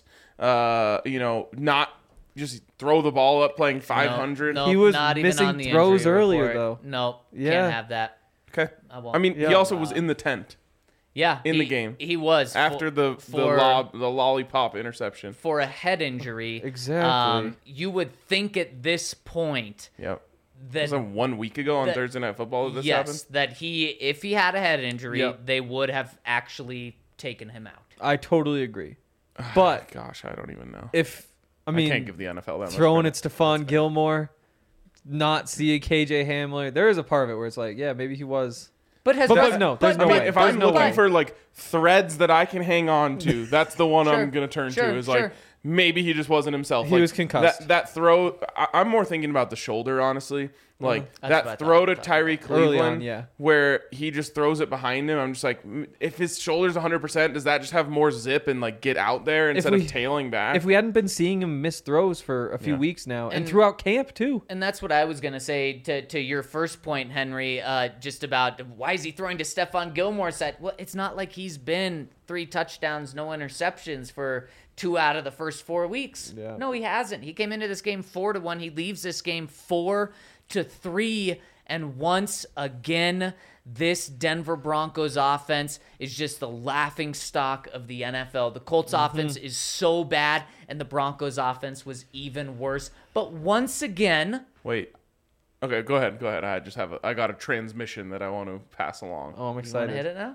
not just throw the ball up playing 500? No, He was not even missing on the throws injury earlier, report. though. No, Yeah. can't have that. Okay. I won't. I mean, he Yeah. also was in the tent Yeah, in the game. He was after the for lollipop interception. for a head injury. Exactly. You would think at this point Yep. that Was it 1 week ago on that- Thursday Night Football that this yes, happened? that if he had a head injury, Yep. they would have actually taken him out. I totally agree. But Gosh, I don't even know. I I mean, can't give the NFL that much throwing credit. at Stephon Gilmore, not see KJ Hamler. There is a part of it where it's like, yeah, maybe he was. But has But Russ- no, there's I no mean, way. if There's I'm no looking way. for like threads that I can hang on to, that's the one Sure, I'm gonna turn sure, to. Is sure. like maybe he just wasn't himself. He Like, was concussed. That throw. I'm more thinking about the shoulder, honestly. Like That's what I that thought throw you to were talking Tyree about. Early Cleveland, on, yeah. where he just throws it behind him. I'm just like, if his shoulder's 100%, does that just have more zip and like get out there instead we- of tailing back? If we hadn't been seeing him miss throws for a few Yeah. weeks now, and And- throughout camp too. And that's what I was going to say to your first point, Henry, just about why is he throwing to Stephon Gilmore's side? Well, it's not like he's been 3 touchdowns, no interceptions for 2 out of the first 4 weeks. Yeah. No, he hasn't. He came into this game 4-1. He leaves this game 4-3. And once again, this Denver Broncos offense is just the laughing stock of the NFL. The Colts offense is so bad, and the Broncos offense was even worse. But once again, Wait. Okay, go ahead. Go ahead. I got a transmission that I want to pass along. Oh, I'm you want excited. to hit it now?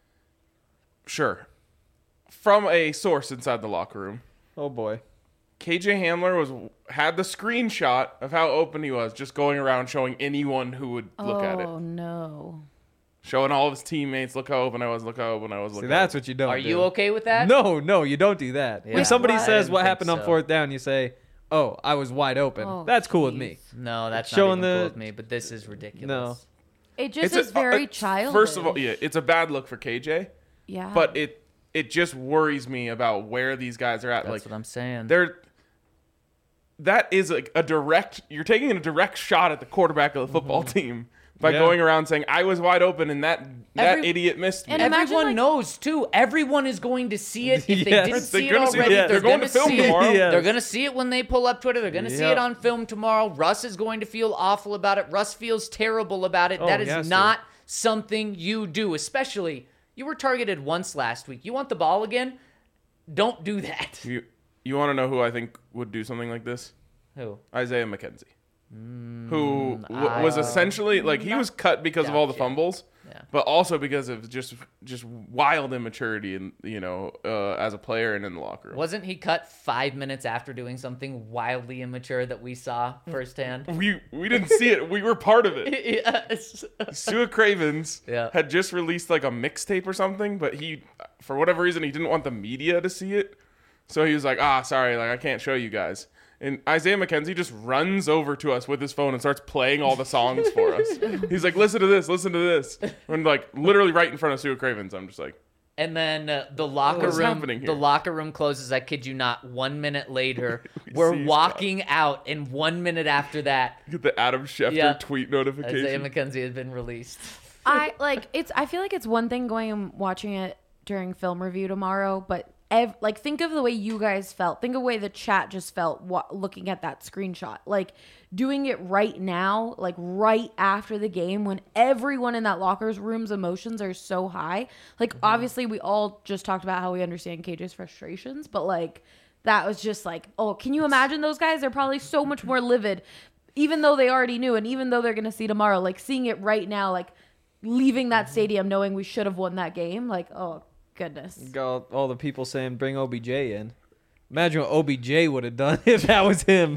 Sure. From a source inside the locker room, Oh boy. KJ Hamler had the screenshot of how open he was, just going around showing anyone who would look at it. Oh no. Showing all of his teammates, look how open I was, look how open I was. See, Look that's how what you don't. Are do. you okay with that? No, you don't do that. Yeah. When somebody What? I says didn't what think happened on so. 4th down, you say, "Oh, I was wide open." Oh, That's cool with me. No, that's Showing not even cool the- with me, but this is ridiculous. No. It just It's is very childish. First of all, yeah, it's a bad look for KJ, Yeah. but it just worries me about where these guys are at. That's Like what I'm saying. that is a direct. You're taking a direct shot at the quarterback of the football team by going around saying I was wide open and that idiot missed me. And everyone knows too. Everyone is going to see it. If they Yes. didn't They're see it gonna see already, it. They're going to film see it. tomorrow. Yes. They're going to see it when they pull up Twitter. They're going to see it on film tomorrow. Russ is going to feel awful about it. Russ feels terrible about it. Oh, that he has is to. not something you do, especially you were targeted once last week. You want the ball again? Don't do that. You want to know who I think would do something like this? Who? Isaiah McKenzie. Who was essentially like he was cut because of all the fumbles, but also because of just wild immaturity and as a player and in the locker room. Wasn't he cut 5 minutes after doing something wildly immature that we saw firsthand? We didn't see it. We were part of it. Yes. Sua Cravens Yeah. had just released like a mixtape or something, but he, for whatever reason, he didn't want the media to see it. So he was like, sorry, like I can't show you guys. And Isaiah McKenzie just runs over to us with his phone and starts playing all the songs for us. He's like, listen to this. And like literally right in front of Sua Cravens. I'm just like, And then the locker What's room, happening here? the locker room closes. I kid you not. 1 minute later, We we're see walking out, and 1 minute after that, get the Adam Schefter tweet Isaiah notification. McKenzie has been released. I feel like it's one thing going and watching it during film review tomorrow, but think of the way you guys felt. Think of the way the chat just felt looking at that screenshot. Like doing it right now, like right after the game when everyone in that locker room's emotions are so high. Like obviously we all just talked about how we understand KJ's frustrations, but like that was just like, oh, can you imagine those guys? They're probably so much more livid, even though they already knew, and even though they're gonna see tomorrow. Like seeing it right now, like leaving that stadium knowing we should have won that game. Like, oh goodness. Got all the people saying bring OBJ in. Imagine what OBJ would have done if that was him.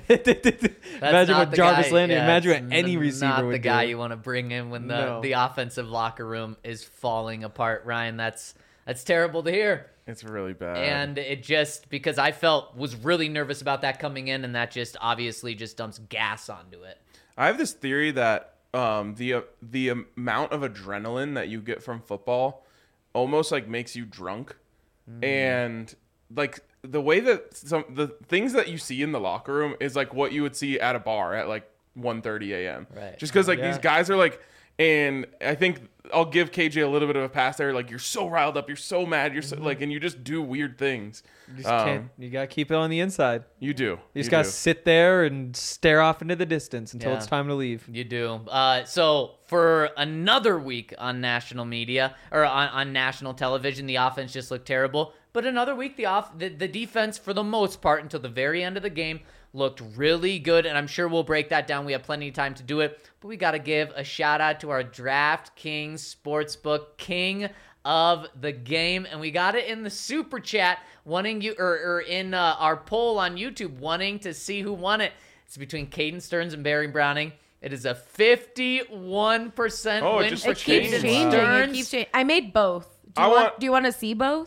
Imagine what Jarvis Landry. Imagine what any receiver not would the guy do. you want to bring in when No. the offensive locker room is falling apart. Ryan, that's terrible to hear. It's really bad. And it just, because I was really nervous about that coming in, and that just obviously just dumps gas onto it. I have this theory that the amount of adrenaline that you get from football almost like makes you drunk, and like the way that the things that you see in the locker room is like what you would see at a bar at like 1:30 a.m. Right. Just because like these guys are like, and I think I'll give KJ a little bit of a pass there. Like you're so riled up, you're so mad, you're so like, and you just do weird things. You just can't. You gotta keep it on the inside. You do. You just gotta sit there and stare off into the distance until it's time to leave. You do. So for another week on national media or on national television, the offense just looked terrible. But another week, the defense, for the most part, until the very end of the game, looked really good. And I'm sure we'll break that down. We have plenty of time to do it. But we got to give a shout out to our DraftKings Sportsbook king of the game, and we got it in the super chat, wanting you or in our poll on YouTube, wanting to see who won it. It's between Caden Stearns and Barry Browning. It is a 51% win for Caden Stearns. It keeps changing. I made both. Do you want to see both?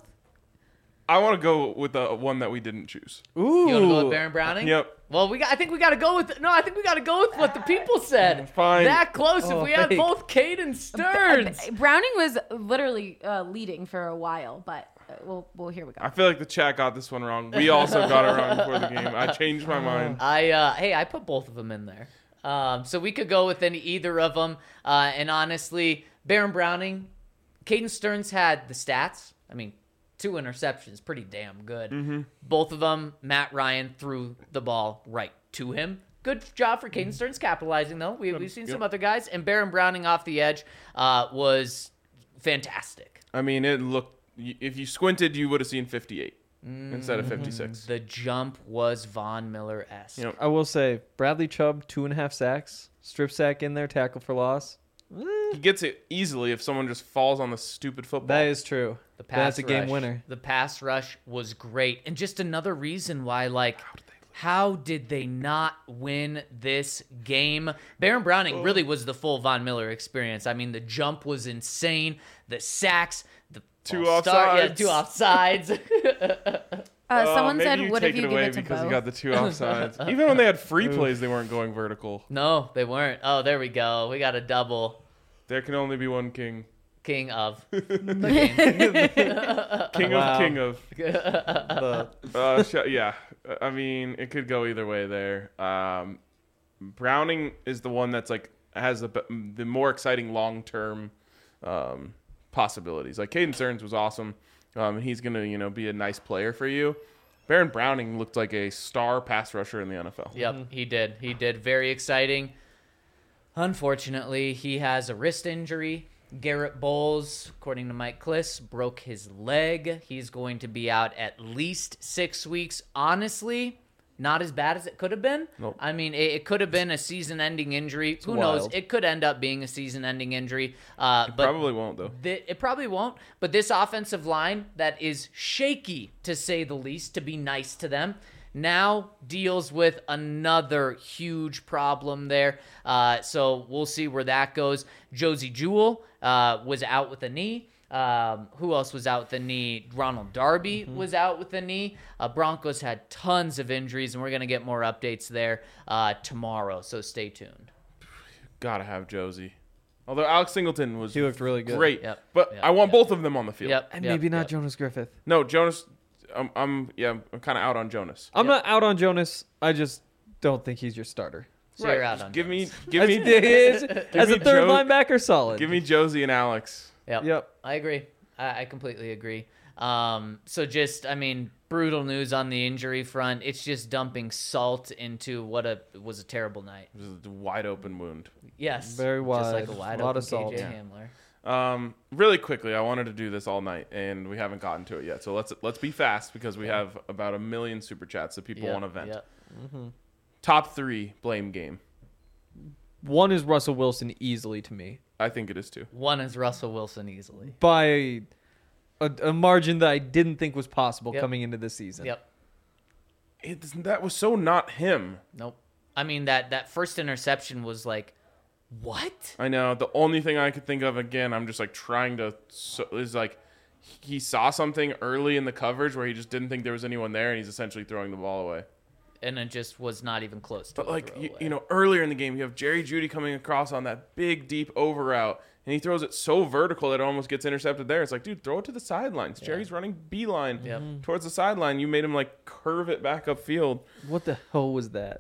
I want to go with the one that we didn't choose. Ooh. You want to go with Barry Browning? Yep. Well, I think we got to go with what the people said. Fine. That close. If we had both Caden Stearns. Browning was literally leading for a while, but well, here we go. I feel like the chat got this one wrong. We also got it wrong before the game. I changed my mind. I put both of them in there. So we could go with either of them. And honestly, Baron Browning, Caden Stearns had the stats. I mean, 2 interceptions, pretty damn good. Mm-hmm. Both of them, Matt Ryan threw the ball right to him. Good job for Caden Stearns capitalizing, though. We've seen some other guys. And Baron Browning off the edge was fantastic. I mean, it looked, if you squinted, you would have seen 58 instead of 56. The jump was Von Miller-esque. Yep. I will say, Bradley Chubb, 2.5 sacks, strip sack in there, tackle for loss. He gets it easily if someone just falls on the stupid football. That is true. That's a game winner. The pass rush was great. And just another reason why, like, how did they not win this game? Baron Browning really was the full Von Miller experience. I mean, the jump was insane. The sacks, the 2 offsides. Yeah, 2 offsides. Someone said, maybe "What if you take it give away it to because both?" you got the 2 offsides? Even when they had free plays, they weren't going vertical. No, they weren't. Oh, there we go. We got a double. There can only be one king. King of the game. King of. Yeah. I mean, it could go either way there. Browning is the one that's like has the more exciting long-term possibilities. Like Caden Stearns was awesome. He's going to, be a nice player for you. Baron Browning looked like a star pass rusher in the NFL. Yep, he did. He did. Very exciting. Unfortunately, he has a wrist injury. Garrett Bowles, according to Mike Kliss, broke his leg. He's going to be out at least 6 weeks. Honestly, not as bad as it could have been. Nope. I mean, it could have been a season-ending injury. Who knows? It could end up being a season-ending injury. But Probably won't, though. it probably won't. But this offensive line that is shaky, to say the least, to be nice to them, now deals with another huge problem there. So we'll see where that goes. Josie Jewell was out with a knee. Who else was out with the knee? Ronald Darby was out with the knee. Broncos had tons of injuries, and we're going to get more updates there tomorrow, so stay tuned. Gotta have Josie. Although Alex Singleton He looked really good. great. Yep, But yep, I want yep. both of them on the field. Yep, And yep, maybe not yep. Jonas Griffith. No, Jonas, I'm kind of out on Jonas. I'm not out on Jonas. I just don't think he's your starter. So you're out on Give me, As a third linebacker, solid. give me Josie and Alex. Yep. I agree. I completely agree. So just, brutal news on the injury front. It's just dumping salt into what was a terrible night. It was a wide open wound. Yes. Very Just wide. like a wide A lot open of salt. KJ Yeah. Hamler. Really quickly, I wanted to do this all night, and we haven't gotten to it yet. So let's be fast because we have about 1 million super chats that people want to vent. Yep. Top 3 blame game. One is Russell Wilson easily to me I think it is too. One is Russell Wilson easily. by a margin that I didn't think was possible Yep. coming into this season. Yep. That was so not him. Nope. That first interception was like, what? I know. The only thing I could think of, again, I'm just like trying to, is like he saw something early in the coverage where he just didn't think there was anyone there, and he's essentially throwing the ball away. And it just was not even close to But a like throwaway. earlier in the game, you have Jerry Jeudy coming across on that big deep over route, and he throws it so vertical that it almost gets intercepted there. It's like, dude, throw it to the sidelines. Yeah. Jerry's running beeline Yep. towards the sideline. You made him like curve it back upfield. What the hell was that?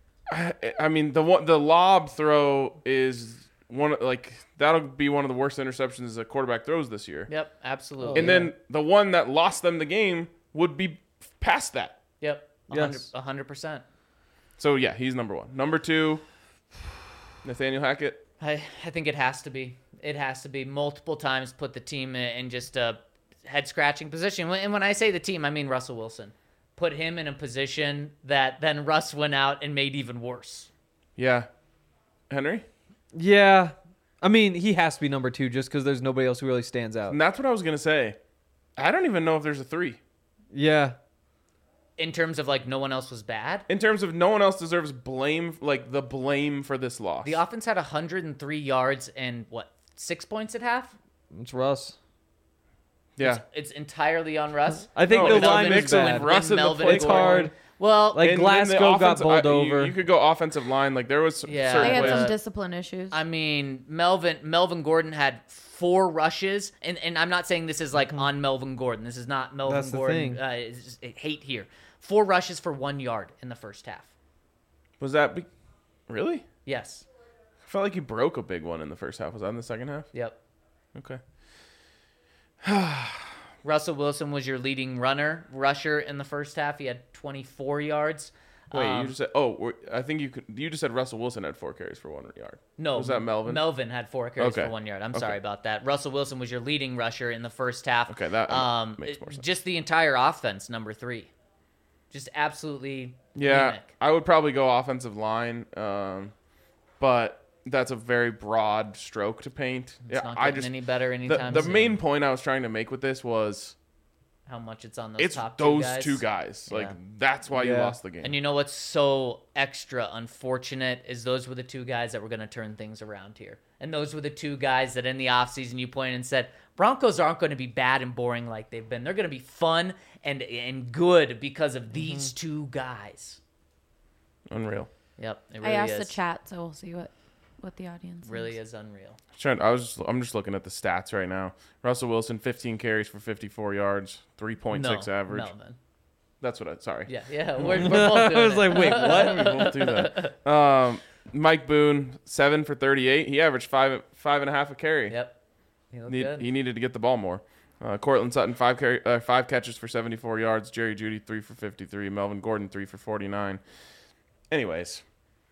The lob throw is that'll be one of the worst interceptions a quarterback throws this year. Yep, absolutely. And then the one that lost them the game would be past that. Yep, Yes. 100%. So yeah, he's number 1. Number 2, Nathaniel Hackett. I think it has to be. It has to be multiple times put the team in just a head-scratching position. And when I say the team, I mean Russell Wilson. Put him in a position that then Russ went out and made even worse. Yeah. Henry? Yeah. He has to be number 2 just because there's nobody else who really stands out. And that's what I was going to say. I don't even know if there's a 3. Yeah. In terms of no one else was bad. In terms of no one else deserves blame, the blame for this loss. The offense had 103 yards and 6 points at half? It's Russ. Yeah. It's entirely on Russ. I think No, the it's a line mix is of bad. Russ and the Melvin play It's Gordon. hard. Well, Like, And Glasgow then the got offensive- bowled over. You could go offensive line. There was Yeah. certain They had plays. some discipline issues. Melvin Gordon had 4 rushes, and I'm not saying this is on Melvin Gordon. This is not Melvin That's the Gordon. thing. It's just, hate here. 4 rushes for 1 yard in the first half. Was that really? Yes. I felt like he broke a big one in the first half. Was that in the second half? Yep. Okay. Russell Wilson was your leading rusher in the first half. He had 24 yards. Wait, you just said? I think you just said Russell Wilson had 4 carries for 1 yard. No, Was that Melvin? Melvin had 4 carries Okay. for 1 yard. I'm Okay. sorry about that. Russell Wilson was your leading rusher in the first half. Okay, that makes more sense. Just the entire offense, number 3. Just absolutely Yeah, anemic. I would probably go offensive line, but that's a very broad stroke to paint. It's not getting any better anytime the soon. main point I was trying to make with this was How much it's on those it's top those 2 guys. 2 guys. Yeah. That's why you Yeah. lost the game. And you know what's so extra unfortunate is those were the 2 guys that were going to turn things around here. And those were the 2 guys that in the offseason you pointed and said, Broncos aren't going to be bad and boring like they've been. They're going to be fun and good because of these 2 guys. Unreal. Yep, it I really asked is. the chat, so we'll see what the audience Really thinks. is unreal. I'm just looking at the stats right now. Russell Wilson, 15 carries for 54 yards, 3.6 average. Melvin. That's what I. Sorry. Yeah, we're both doing I was it. like, wait, what? We won't do that. Mike Boone, 7 for 38. He averaged 5.5 a carry. Yep. He looked good. He needed to get the ball more. Cortland Sutton, 5 catches for 74 yards. Jerry Jeudy, 3 for 53. Melvin Gordon, 3 for 49. Anyways,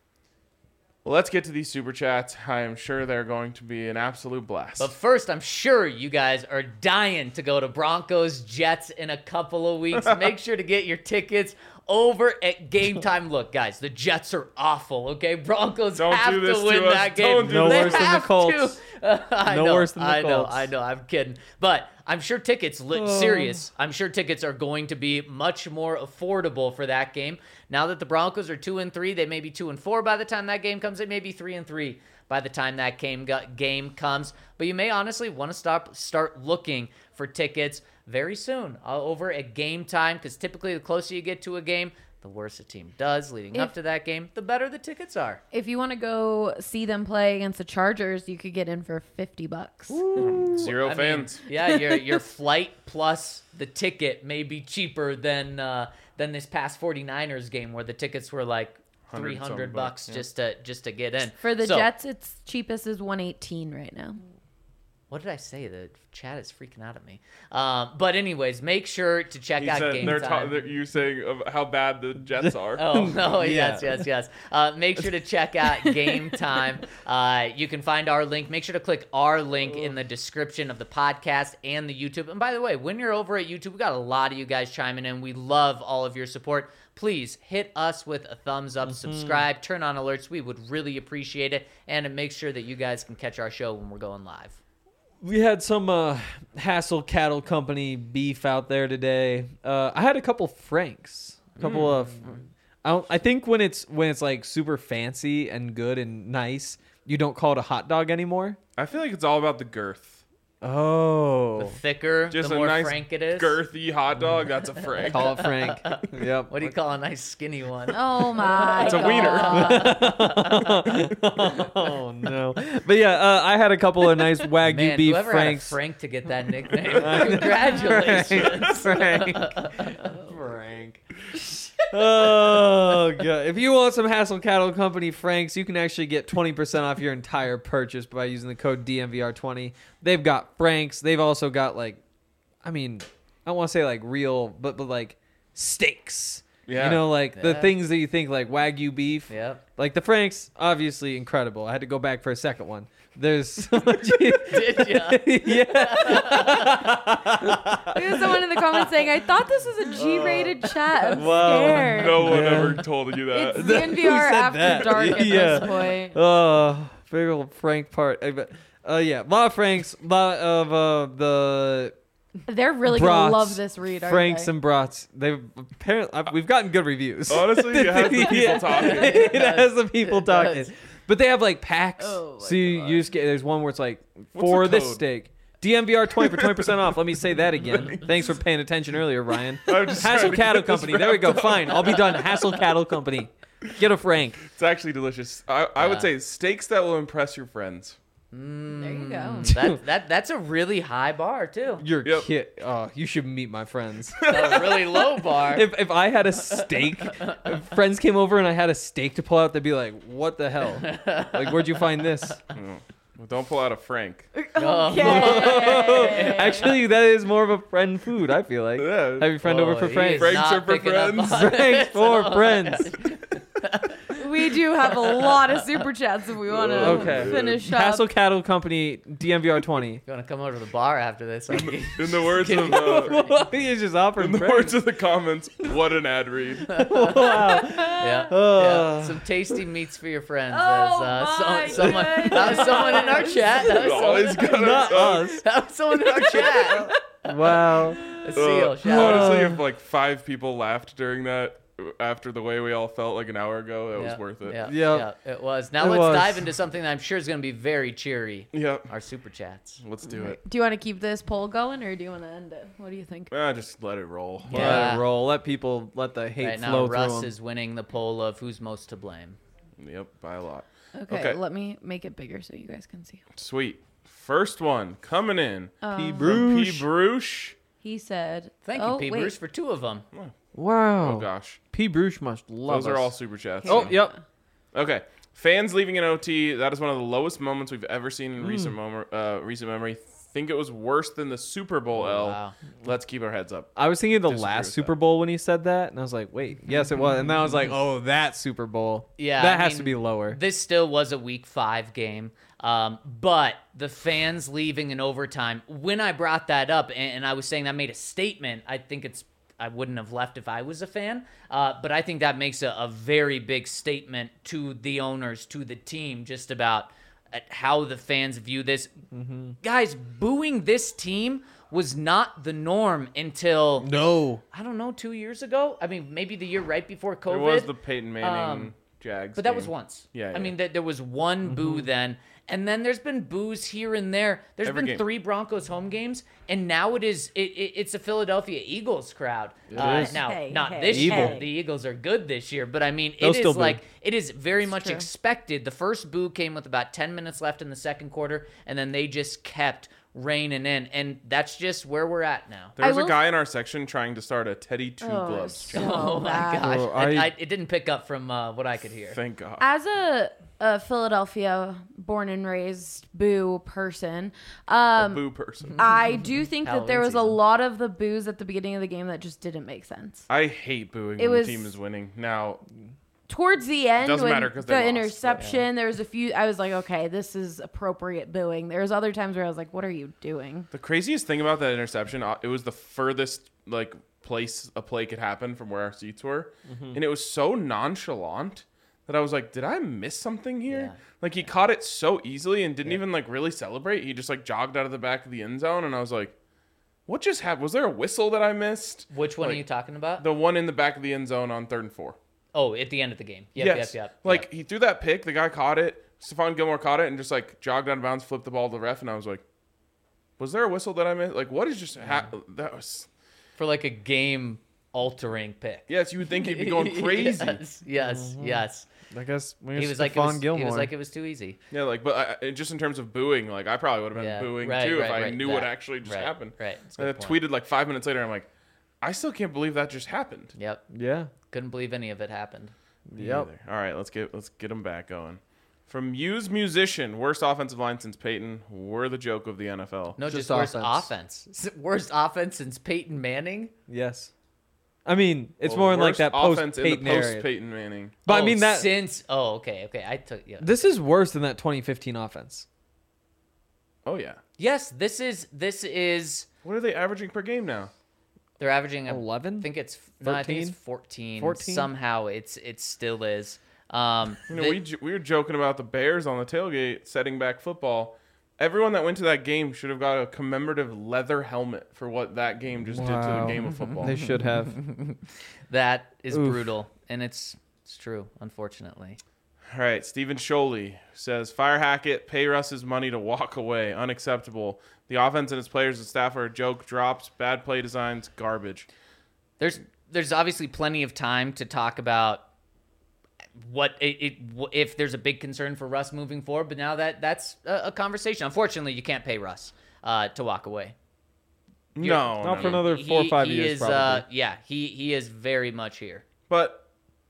let's get to these Super Chats. I am sure they're going to be an absolute blast. But first, I'm sure you guys are dying to go to Broncos Jets in a couple of weeks. Make sure to get your tickets over at Game Time. Look, guys, the Jets are awful, okay? Broncos have to win that game. No worse than the Colts. No worse than the Colts. I know, I'm kidding. But I'm sure tickets, serious, I'm sure tickets are going to be much more affordable for that game. Now that the Broncos are 2-3, they may be 2-4 by the time that game comes. They may be 3-3 by the time that game comes. But you may honestly want to start looking for tickets very soon over at Game Time, because typically the closer you get to a game, the worse a team does leading up to that game, the better the tickets are. If you want to go see them play against the Chargers, you could get in for $50. Zero fans. Yeah, your flight plus the ticket may be cheaper than this past 49ers game where the tickets were like $300 just to get in. For the Jets, its cheapest is $118 right now. What did I say? The chat is freaking out at me. But anyways, make sure to check out Game Time. You're saying how bad the Jets are. Oh, no, yes. Make sure to check out Game Time. You can find our link. Make sure to click our link in the description of the podcast and the YouTube. And by the way, when you're over at YouTube, we got a lot of you guys chiming in. We love all of your support. Please hit us with a thumbs up, subscribe, turn on alerts. We would really appreciate it. And make sure that you guys can catch our show when we're going live. We had some Hassel Cattle Company beef out there today. I had a couple Franks, a couple of. I think when it's like super fancy and good and nice, you don't call it a hot dog anymore. I feel like it's all about the girth. Oh, the thicker, just the more nice frank it is. Girthy hot dog. That's a Frank. Call it Frank. Yep. What do you call a nice skinny one? Oh my! It's a wiener. Oh no! But yeah, I had a couple of nice Wagyu beef whoever Franks. Had a Frank to get that nickname. Congratulations, Frank. Oh god! If you want some Hassel Cattle Company Franks, you can actually get 20% off your entire purchase by using the code DMVR20. They've got Franks. They've also got I don't want to say like real, but like steaks. Yeah. You know, like the things that you think like Wagyu beef. Yep. Like the Franks, obviously incredible. I had to go back for a second one. There's so much. Did ya? Yeah. There's someone in the comments saying, "I thought this was a G-rated chat. I'm Wow. scared." No one ever told you that. It's DNVR after that? dark at Yeah. this point. Oh, big old Frank part. Yeah, a lot of Franks, a lot of the They're really brats, gonna love this read. Aren't Franks they? and brats. They've apparently we've gotten good reviews. Honestly, it has the people talking. It has the people talking. does. But they have like packs. Oh, my So you just get, there's one where it's like, What's for the this code? steak. DMVR 20 for 20% off. Let me say that again. Thanks for paying attention earlier, Ryan. I'm just Hassel trying to Cattle get this Company. There we go. Fine. I'll be done. Hassel Cattle Company. Get a Frank. It's actually delicious. I would say steaks that will impress your friends. There you go. That's a really high bar too. You're Yep. kid. Oh, you should meet my friends. A really low bar. If I had a steak, if friends came over and I had a steak to pull out, they'd be like, "What the hell? Like, where'd you find this?" Well, don't pull out a Frank. Okay. Actually, that is more of a friend food. I feel like. Yeah. Have your friend over for he Franks. is Franks not are for picking up friends. on Franks it. for friends. We do have a lot of super chats if we want to Okay. finish up. Hassel Cattle Company, DMVR 20. You want to come over to the bar after this? In the words of He's just offering in the Franks. words of the comments, what an ad read. Wow. Yeah. Some tasty meats for your friends. Oh, As, my someone, that was someone in our chat. Always gotta Not suck. us. That was someone in our chat. Wow. A seal. Shout out. Honestly, if like 5 people laughed during that, after the way we all felt like an hour ago, that was worth it. Yeah, Yep. yeah, it was. Now It let's was. dive into something that I'm sure is going to be very cheery. Yep. Our super chats. Let's do it. Do you want to keep this poll going or do you want to end it? What do you think? Just let it roll. Yeah. Let it roll. Let the hate Right now, flow Russ through 'em. is winning the poll of who's most to blame. Yep, by a lot. Okay, let me make it bigger so you guys can see. Sweet. First one coming in. P. From P. Bruce. Bruce. He said, Thank you, P. Bruce, for 2 of them. Wow. Oh gosh. P. Bruce must love Those us. are all super chats. Oh, yep. Okay. Fans leaving in OT, that is one of the lowest moments we've ever seen in recent memory. Think it was worse than the Super Bowl L. Wow. Let's keep our heads up. I was thinking of the Disagree last with Super that. Bowl when he said that, and I was like, wait, yes, it was. And then I was like, oh, that Super Bowl. Yeah, That I has mean, to be lower. This still was a Week 5 game. But the fans leaving in overtime, when I brought that up and I was saying that made a statement, I wouldn't have left if I was a fan. But I think that makes a very big statement to the owners, to the team, just about how the fans view this. Guys, booing this team was not the norm until, No. I don't know, 2 years ago. I mean, maybe the year right before COVID. It was the Peyton Manning Jags But that game. was once. Yeah, I yeah. mean, there was one boo then, and then there's been boos here and there. There's Every been game. 3 Broncos home games, and now it's a Philadelphia Eagles crowd. is. Now, Hey, not hey, this year. hey. The Eagles are good this year, but I mean, They'll it still is boo. like it is very much true. expected. The first boo came with about 10 minutes left in the second quarter, and then they just kept raining in, and that's just where we're at now. There was I a will- guy in our section trying to start a Teddy Two Oh, Gloves so challenge. Oh my bad. gosh! Oh, It didn't pick up from what I could hear. Thank God. As a Philadelphia born and raised boo person, A boo person. I do think that there Halloween was a season. lot of the boos at the beginning of the game that just didn't make sense. I hate booing It when was- the team is winning. Now, Towards the end, Doesn't when matter 'cause they the lost, but interception, there was a few. I was like, okay, this is appropriate booing. There was other times where I was like, what are you doing? the craziest thing about that interception, it was the furthest place a play could happen from where our seats were, and it was so nonchalant that I was like, did I miss something here? Yeah. Like he caught it so easily and didn't even really celebrate. He just jogged out of the back of the end zone, and I was like, what just happened? Was there a whistle that I missed? Which one are Like, you talking about? The one in the back of the end zone on 3rd and 4. Oh, at the end of the game. Yep. He threw that pick. The guy caught it. Stephon Gilmore caught it and just jogged out of bounds, flipped the ball to the ref, and I was like, was there a whistle that I missed? What is just happened? That was For a game altering pick. yes. You would think he'd be going crazy. Yes. I guess He was like, Gilmore. he was like, it was too easy. Yeah, but just in terms of booing, I probably would have been Yeah, booing right, too if right, I right, knew that, what actually just right, happened. right. That's a And I good point. tweeted 5 minutes later. I'm like, I still can't believe that just happened. Yep. Yeah. Couldn't believe any of it happened. Me Yep. either. All right, let's get them back going. From Muse Musician, worst offensive line since Peyton. We're the joke of the NFL. No, Just just worst offense. offense. Worst offense since Peyton Manning. Yes. I mean, it's Well, more in worst that post offense in the Peyton era. post Peyton Manning. But I Oh, mean that since. Oh, okay. I took. Yeah. this is worse than that 2015 offense. Oh yeah. Yes, this is. What are they averaging per game now? They're averaging 11? I think it's. No, I think it's 14. 14? Somehow it still is. We were joking about the Bears on the tailgate setting back football. Everyone that went to that game should have got a commemorative leather helmet for what that game just did to the Wow. game of football. They should have. That is Oof. brutal, and it's true, unfortunately. All right, Stephen Sholey says, fire Hackett, pay Russ his money to walk away. Unacceptable. The offense and its players and staff are a joke. Drops, bad play designs, garbage. There's obviously plenty of time to talk about if there's a big concern for Russ moving forward, but now that's a conversation. Unfortunately, you can't pay Russ to walk away. No, Not no, for no. another 4 or 5 he years, is, probably. he is very much here. But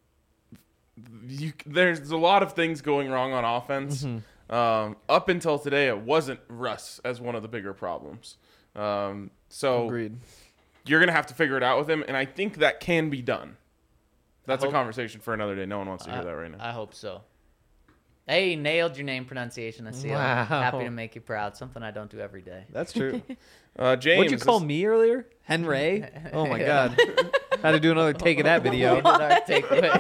there's a lot of things going wrong on offense. Up until today, it wasn't Russ as one of the bigger problems. So Agreed. you're going to have to figure it out with him, and I think that can be done. That's a hope- conversation for another day. No one wants to hear that right now. I hope so. Hey, nailed your name pronunciation, Asil. Wow. Happy to make you proud. Something I don't do every day. That's true. James, What'd you call me earlier? Henry? Oh my god. Had to do another take of that video. Did our takeaways.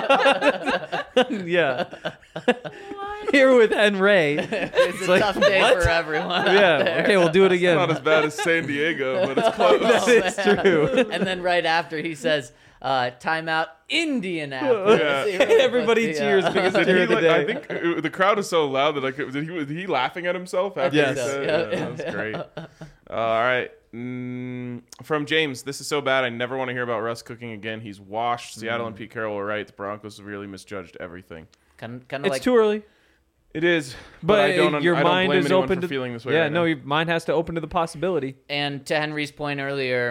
Yeah. Here with Henry. It's a like, tough day what? for everyone. out Yeah. there. Okay, we'll do it Not as again. bad as San Diego, but it's close. That is true. And then right after he says, timeout Indianapolis. Yeah. He really Everybody puts the, cheers because Did Deer he, of the I day. think the crowd was so loud that was he laughing at himself after Yes. he said it? Yeah, that was great. All right. From James, this is so bad. I never want to hear about Russ cooking again. He's washed. Seattle and Pete Carroll were right. The Broncos severely misjudged everything. kind of It's like too early. It is, But I don't. your I don't mind blame is anyone open for to feeling this way. Yeah, right no, now. your mind has to open to the possibility. And to Henry's point earlier,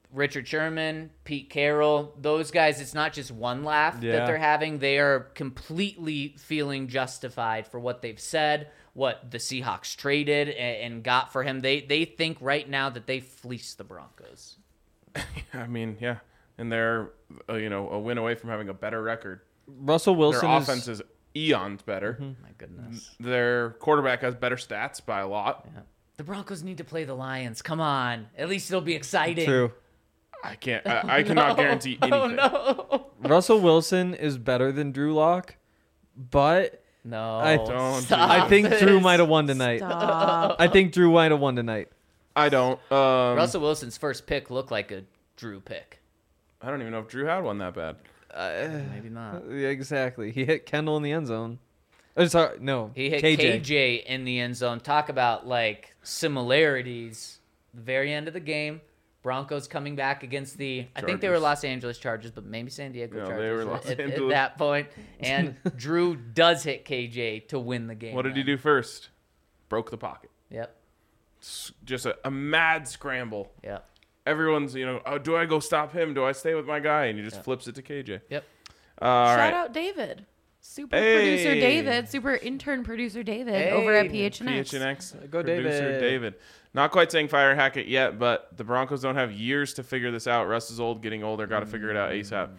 Richard Sherman, Pete Carroll, those guys, it's not just one laugh that they're having. They are completely feeling justified for what they've said, what the Seahawks traded and got for him. They think right now that they fleeced the Broncos. I mean, yeah. And they're, a win away from having a better record. Russell Wilson Their offense is eons better. My goodness. Their quarterback has better stats by a lot. Yeah. The Broncos need to play the Lions. Come on. At least it'll be exciting. True. I can't. I cannot guarantee anything. No. Russell Wilson is better than Drew Lock, but No. I think Drew might have won tonight. Stop. I think Drew might have won tonight. I don't. Russell Wilson's first pick looked like a Drew pick. I don't even know if Drew had one that bad. Maybe not. Yeah, exactly. He hit Kendall in the end zone. Oh, sorry, no. He hit KJ in the end zone. Talk about like similarities. The very end of the game, Broncos coming back against the I think they were Los Angeles Chargers, but maybe San Diego Chargers they were Los at Angeles. that point. And Drew does hit KJ to win the game. What did he do first? Broke the pocket. Yep. Just a mad scramble. Yep. Everyone's, do I go stop him? Do I stay with my guy? And he just flips it to KJ. Yep. Shout out David. Super producer David, super intern producer David over at PHNX. PHNX. Go producer David. David. Not quite saying fire hack it yet, but the Broncos don't have years to figure this out. Russ is old, getting older, got to figure it out ASAP.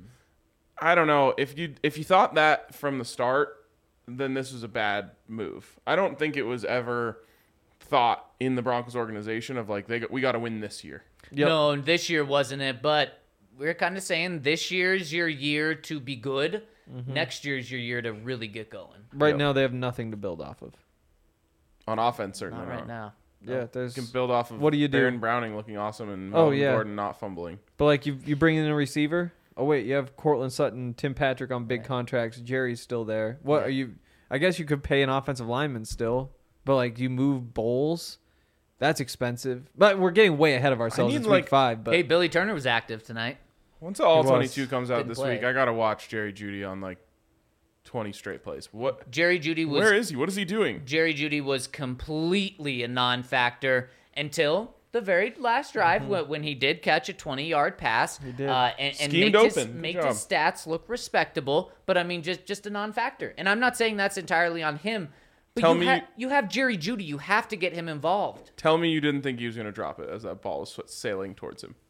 I don't know. If you thought that from the start, then this was a bad move. I don't think it was ever thought in the Broncos organization of like we got to win this year. Yep. No, this year wasn't it, but we're kind of saying this year's your year to be good. Next year's your year to really get going. Right now, they have nothing to build off of. On offense, certainly Not right now. Yeah, there's. You can build off of What do you do? Baron Browning looking awesome and Melvin yeah. Gordon not fumbling. But like you bring in a receiver. Oh wait, you have Cortland Sutton, Tim Patrick on big contracts. Jerry's still there. What are you? I guess you could pay an offensive lineman still, but like you move Bowles. That's expensive. But we're getting way ahead of ourselves. It's week 5. But Hey, Billy Turner was active tonight. Once all He was. 22 comes out Didn't this play. week, I gotta watch Jerry Jeudy on like 20 straight plays. What? Jerry Jeudy was Where is he? What is he doing? Jerry Jeudy was completely a non-factor until the very last drive when he did catch a 20-yard pass. He did. And Schemed make open. make Good his stats look respectable, but I mean just a non-factor. And I'm not saying that's entirely on him, but you have Jerry Jeudy. You have to get him involved. Tell me you didn't think he was gonna drop it as that ball was sailing towards him.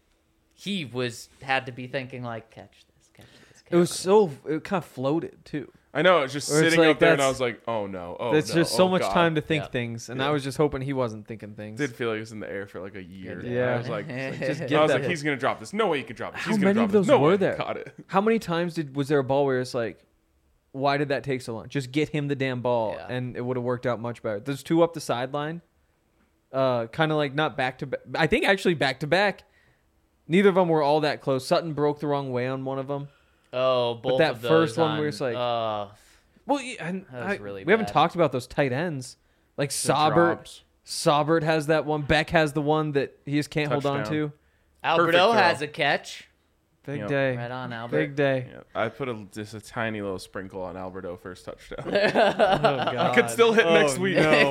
He had to be thinking like, catch this, catch this. it was so it kind of floated too. I know, it's just Or it's sitting like up there, and I that's- was like, "Oh no, oh There's no, just so oh, much God." time to think Yeah. things, and Yeah. I was just hoping he wasn't thinking things. Did feel like it was in the air for like a year. Yeah. I was like, Just I get was that. like, he's gonna drop this. No way he could drop this. How He's gonna many drop of those this. No were way. there? Caught it. How many times was there a ball where it's like, why did that take so long? Just get him the damn ball, Yeah. and it would have worked out much better. There's 2 up the sideline, kind of like not back to back. I think actually back to back. Neither of them were all that close. Sutton broke the wrong way on one of them. Oh, both that of those first one on, where it's like- Well, yeah, and That was really we haven't bad. talked about those tight ends. Like The Saubert. drops. Saubert has that one. Beck has the one that he just can't hold on Touchdown. to. Alberto Perfect has throw. a catch. Big Yep. day. Right on, Albert. Big day. Yeah, I put just a tiny little sprinkle on Alberto first touchdown. Oh, God. I could still hit next week. No.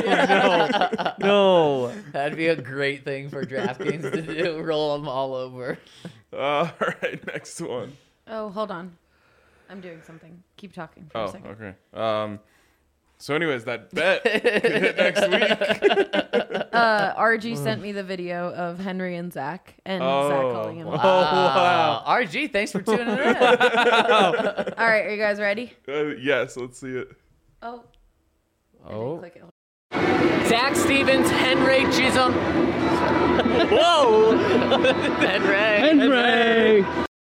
No. That'd be a great thing for DraftKings to do. Roll them all over. All right, next one. Oh, hold on. I'm doing something. Keep talking for a Oh, second. okay. So, anyways, that bet could hit next week. RG sent me the video of Henry and Zach, and Zach calling him. Oh, wow. RG, thanks for tuning in. All right, are you guys ready? Yes, let's see it. Oh. I Oh. didn't click it. Zach Stevens, Henry Chisholm. Whoa! Henry.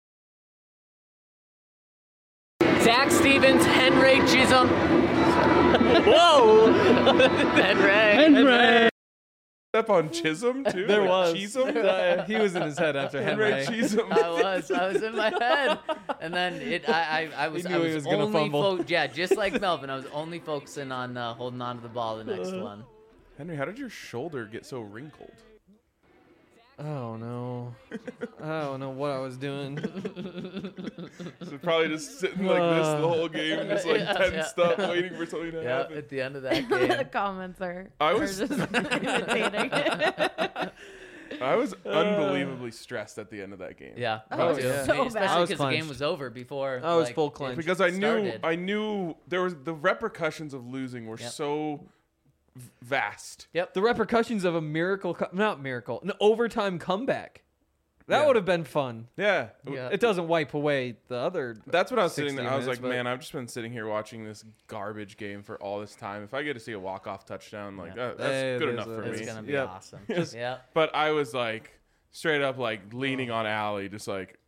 Zach Stevens, Henry Chisholm. Whoa! Henry. Up on Chisholm, too? There Like was. Chisholm? He was in his head after Henry. Henry Chisholm. I was in my head, and then I was He knew he was gonna only fumble. just like Melvin. I was only focusing on holding on to the ball the next one. Henry, how did your shoulder get so wrinkled? Oh, no. I don't know what I was doing. So probably just sitting like this the whole game, just like tensed up, waiting for something to Yeah, happen. at the end of that the game. comments are, I are was- just imitating. I was unbelievably stressed at the end of that game. Yeah. Oh, me too. yeah. So bad. Especially I was because the game clenched. was over before. I was full clenched. Because started. I knew there was the repercussions of losing were Yep. so vast. Yep. The repercussions of an overtime comeback. That would have been fun. Yeah. Yeah. It doesn't wipe away the other. That's what I was 60 sitting there. I was minutes, like, but- man, I've just been sitting here watching this garbage game for all this time. If I get to see a walk-off touchdown, like Yeah. that's It good is enough a- for It's me. gonna be Yep. awesome. Just- Yeah. But I was like straight up like leaning on Allie, just like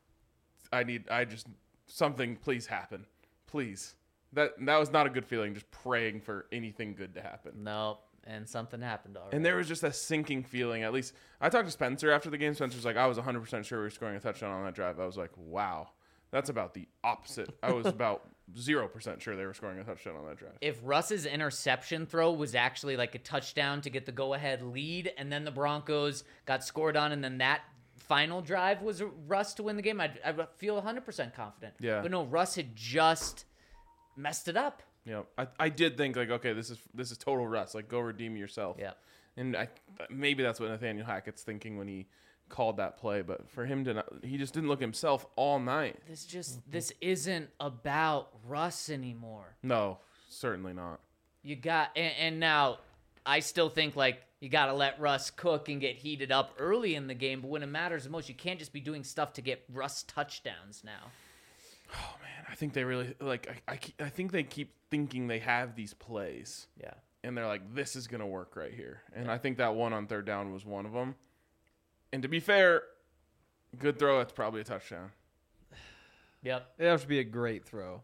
something please happen. Please. That was not a good feeling, just praying for anything good to happen. No. And something happened already. And there was just a sinking feeling. At least I talked to Spencer after the game. Spencer's like, I was 100% sure we were scoring a touchdown on that drive. I was like, wow, that's about the opposite. I was about 0% sure they were scoring a touchdown on that drive. If Russ's interception throw was actually like a touchdown to get the go-ahead lead, and then the Broncos got scored on, and then that final drive was Russ to win the game, I'd feel 100% confident. Yeah. But no, Russ had just messed it up. You know, I did think like, okay, this is total Russ. Like, go redeem yourself. Yeah. And maybe that's what Nathaniel Hackett's thinking when he called that play. But for him to not, he just didn't look himself all night. This isn't about Russ anymore. No, certainly not. You got, and now I still think like you got to let Russ cook and get heated up early in the game. But when it matters the most, you can't just be doing stuff to get Russ touchdowns now. Oh man, I think they really like. I think they keep thinking they have these plays. Yeah. And they're like, this is going to work right here. And I think that one on third down was one of them. And to be fair, good throw, that's probably a touchdown. Yep. It has to be a great throw.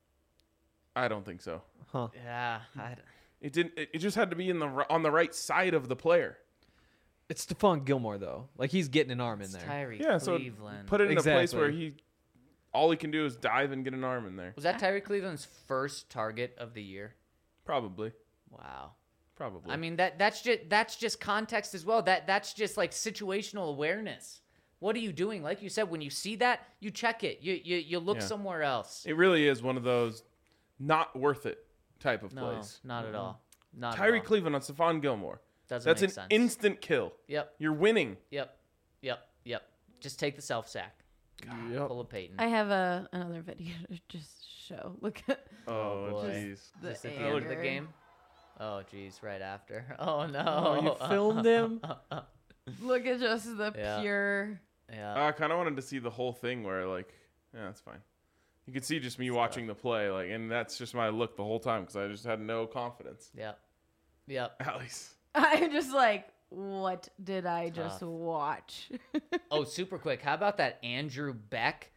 I don't think so. Huh. Yeah. It didn't. It just had to be on the right side of the player. It's Stephon Gilmore, though. Like, he's getting an arm in It's there. Tyreek Yeah, so Cleveland. put it in a place Exactly. where all he can do is dive and get an arm in there. Was that Tyreek Cleveland's first target of the year? Probably. Wow. Probably. I mean that's just context as well. That's just like situational awareness. What are you doing? Like you said, when you see that, you check it. You look Yeah. somewhere else. it really is one of those not worth it type of No, plays. not at all. Not at Tyreek all. Cleveland on Stephon Gilmore. Doesn't That's make an sense. instant kill. Yep. You're winning. Yep. Just take the self sack. Yep. Pull a Peyton. I have another video to just show. Look at Oh, boy. jeez. the Just at the end of the anger. game. Oh, geez, right after. Oh no. Oh, you filmed him? Look at just the Yeah. pure. Yeah. I kind of wanted to see the whole thing where, like, yeah, that's fine. You could see just me watching the play, like, and that's just my look the whole time because I just had no confidence. Yep. Yep. At least. I'm just like, what did I just Tough. watch? Oh, super quick. How about that Andrew Beck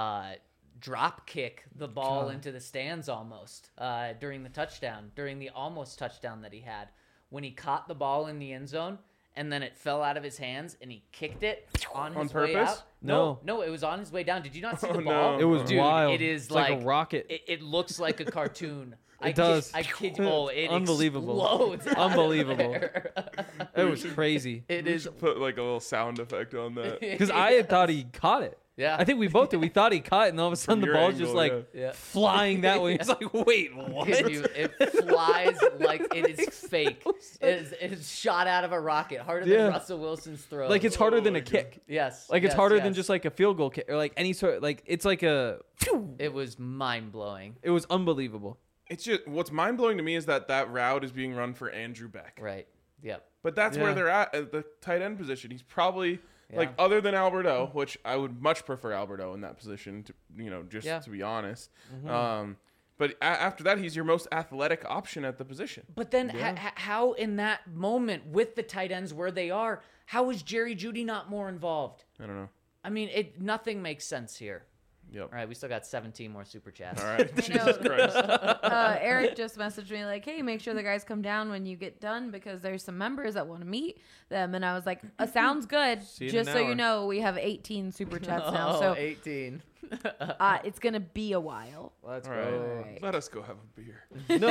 drop kick the ball into the stands almost during the almost touchdown that he had when he caught the ball in the end zone and then it fell out of his hands and he kicked it on his way purpose? out. No. No, it was on his way down. Did you not see Oh, the ball? no. It was Dude, wild. It is It's like a rocket. It looks like a cartoon. It does. I kid you. Oh, it Unbelievable. explodes out of Unbelievable. there. It was crazy. It We is. should put, like, a little sound effect on that. Because I had thought he caught it. Yeah. I think we both did. We thought he caught it, and all of a sudden the your ball's angle, just like yeah. flying that way. It's like, wait, what? It flies like it is fake. It is shot out of a rocket, harder Yeah. than Russell Wilson's throw. Like it's harder Oh than my a kick. yes, Like it's yes, harder yes. than just like a field goal kick or like any sort. Like it's like a. It was mind blowing. It was unbelievable. It's just, what's mind blowing to me is that route is being run for Andrew Beck. Right. Yep. But that's Yeah. where they're at the tight end position. He's probably, like, Yeah. other than Alberto, which I would much prefer Alberto in that position, just Yeah. to be honest. But after that, he's your most athletic option at the position. But then how in that moment with the tight ends where they are, how is Jerry Jeudy not more involved? I don't know. I mean, nothing makes sense here. Yep. All right, we still got 17 more super chats. All right. Jesus Christ. Eric just messaged me like, "Hey, make sure the guys come down when you get done because there's some members that want to meet them." And I was like, "Sounds good." See you in Just an so hour. you know, we have 18 super chats now, Oh, so 18. it's gonna be a while. Let's All right. go. Right. Let us go have a beer.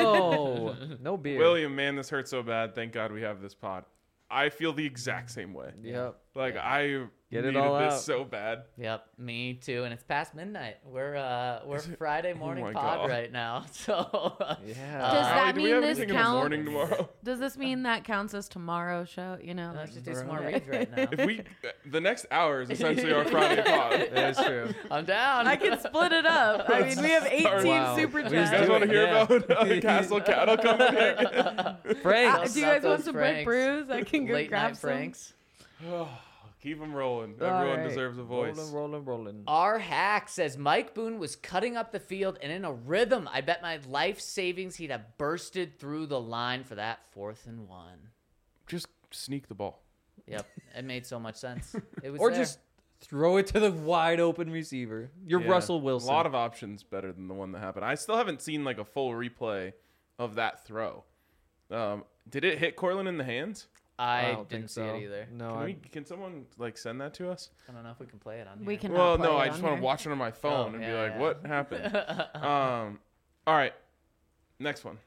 No beer. William, man, this hurts so bad. Thank God we have this pod. I feel the exact same way. Yep. Like, I Get it Needed all this out. so bad. Yep, me too. And it's past midnight. We're Friday morning my pod God. right now. So Does Yeah. that do we mean have this anything in the morning counts? tomorrow? Does this mean that counts as tomorrow's show? You know, let's like, just do some more reads right now. If we, the next hour is essentially our Friday pod. That is true. I'm down. I can split it up. I mean, we have 18 Wow. super We You just guys do chats. want to it, hear yeah. about Castle Cattle Company? Frank. Do you guys want those some Brick Franks. Brews? I can go Late grab night some. Franks. Keep them rolling. All Everyone right. deserves a voice. Rolling. Our hack says Mike Boone was cutting up the field and in a rhythm. I bet my life savings he'd have bursted through the line for that 4th and 1. Just sneak the ball. Yep, it made so much sense. It was Or there. just throw it to the wide open receiver. You're Yeah. Russell Wilson. A lot of options better than the one that happened. I still haven't seen like a full replay of that throw. Did it hit Cortland in the hands? I don't didn't think see so. it either. No, Can someone like send that to us? I don't know if we can play it on here. We can. Well, play no, it I on just want here. to watch it on my phone Oh, and be yeah, like, yeah. what happened? All right. Next one.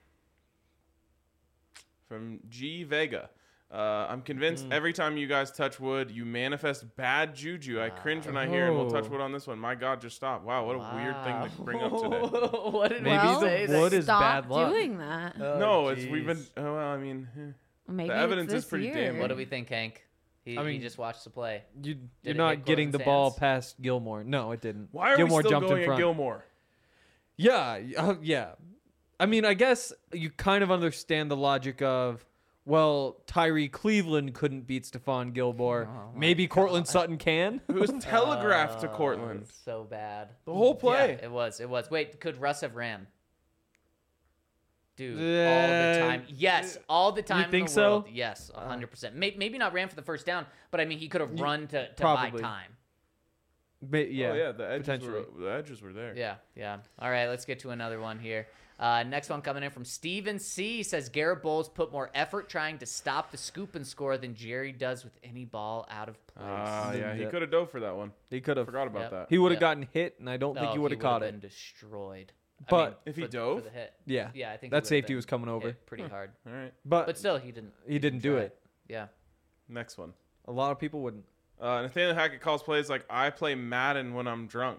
From G Vega. I'm convinced every time you guys touch wood, you manifest bad juju. I cringe when I hear, and we'll touch wood on this one. My God, just stop. Wow, what a weird thing to bring up today. What did Maybe we the say? wood is Stop bad luck. doing that. No, we've been, well, I mean, Maybe the it's evidence is this pretty year. damn What do we think, Hank? He I mean, just watched the play. you're it not hit getting the Cortland's ball hands? past Gilmore. No, it didn't. why are Gilmore we still jumped in going at front. Gilmore? Yeah, yeah. I mean, I guess you kind of understand the logic of, well, Tyree Cleveland couldn't beat Stephon Gilmore. Maybe Cortland Sutton can. It was telegraphed to Cortland. So bad. The whole play. Yeah, it was. It was. Wait, could Russ have ran? Dude, all Uh, the time. Yes, all the time. think in the so? world. Yes, 100%. Maybe not ran for the first down, but I mean, he could have run to buy probably. time. Yeah, Oh, yeah, the edges, potentially. were there. Yeah, yeah. All right, let's get to another one here. Next one coming in from Steven C. says Garrett Bowles put more effort trying to stop the scoop and score than Jerry does with any ball out of place. Yeah, he Yeah. could have dove for that one. He could have. Forgot about Yep. that. He would have Yep. gotten hit, and I don't think he would have caught been it. destroyed. But if he for dove? the hit. Yeah, Yeah, I think that he safety would've was coming been over. hit pretty hard. All right. But still, he didn't. He didn't do try it. Yeah. Next one. A lot of people wouldn't. Nathaniel Hackett calls plays like, I play Madden when I'm drunk.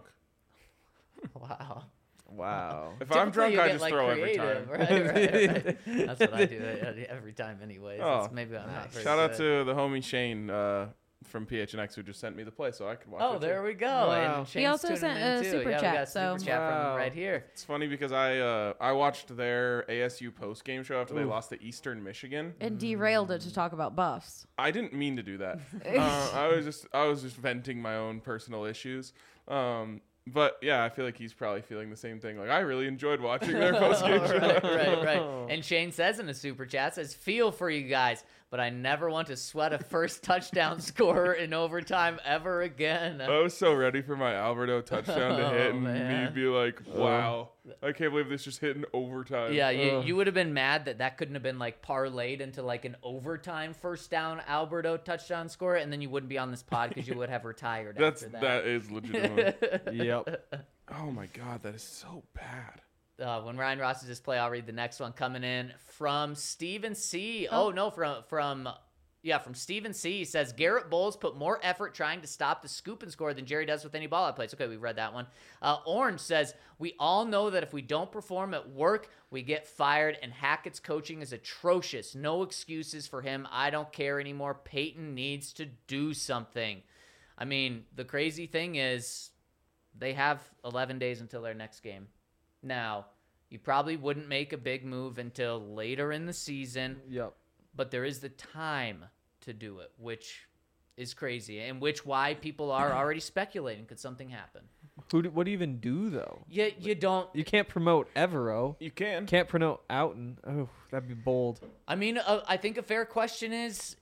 Wow. Wow. If I'm drunk, Typically, you I get, just like, throw creative, every time. Right. That's what I do every time, anyways. Oh, Maybe I'm not. very Shout out good. to the homie Shane from PHNX who just sent me the play so I could watch it. Oh, too. there we go. Wow. And He Shane's also tuning sent in, a too. super yeah, we chat, got a super so- chat from him Wow. right here. It's funny because I watched their ASU post game show after they lost to Eastern Michigan. And derailed it to talk about buffs. I didn't mean to do that. I was just venting my own personal issues. But yeah, I feel like he's probably feeling the same thing. Like, I really enjoyed watching their post game show. right. And Shane says in a super chat, says, feel for you guys, but I never want to sweat a first touchdown scorer in overtime ever again. I was so ready for my Alberto touchdown to hit and man. me be like, wow, I can't believe this just hit in overtime. Yeah, you would have been mad that couldn't have been like parlayed into like an overtime first down Alberto touchdown score, and then you wouldn't be on this pod because you would have retired after that. That is legitimate. Yep. Oh my God, that is so bad. When Ryan Ross is this play, I'll read the next one coming in from Steven C. Oh, no, from Steven C. He says Garrett Bowles put more effort trying to stop the scoop and score than Jerry does with any ball out plays. Okay, we've read that one. Orange says we all know that if we don't perform at work, we get fired, and Hackett's coaching is atrocious. No excuses for him. I don't care anymore. Peyton needs to do something. I mean, the crazy thing is they have 11 days until their next game. Now, you probably wouldn't make a big move until later in the season, Yep. but there is the time to do it, which is crazy, and why people are already speculating could something happen. What do you even do though? You don't. You can't promote Evero. You can. Can't promote Outen. Oh, that'd be bold. I mean, I think a fair question is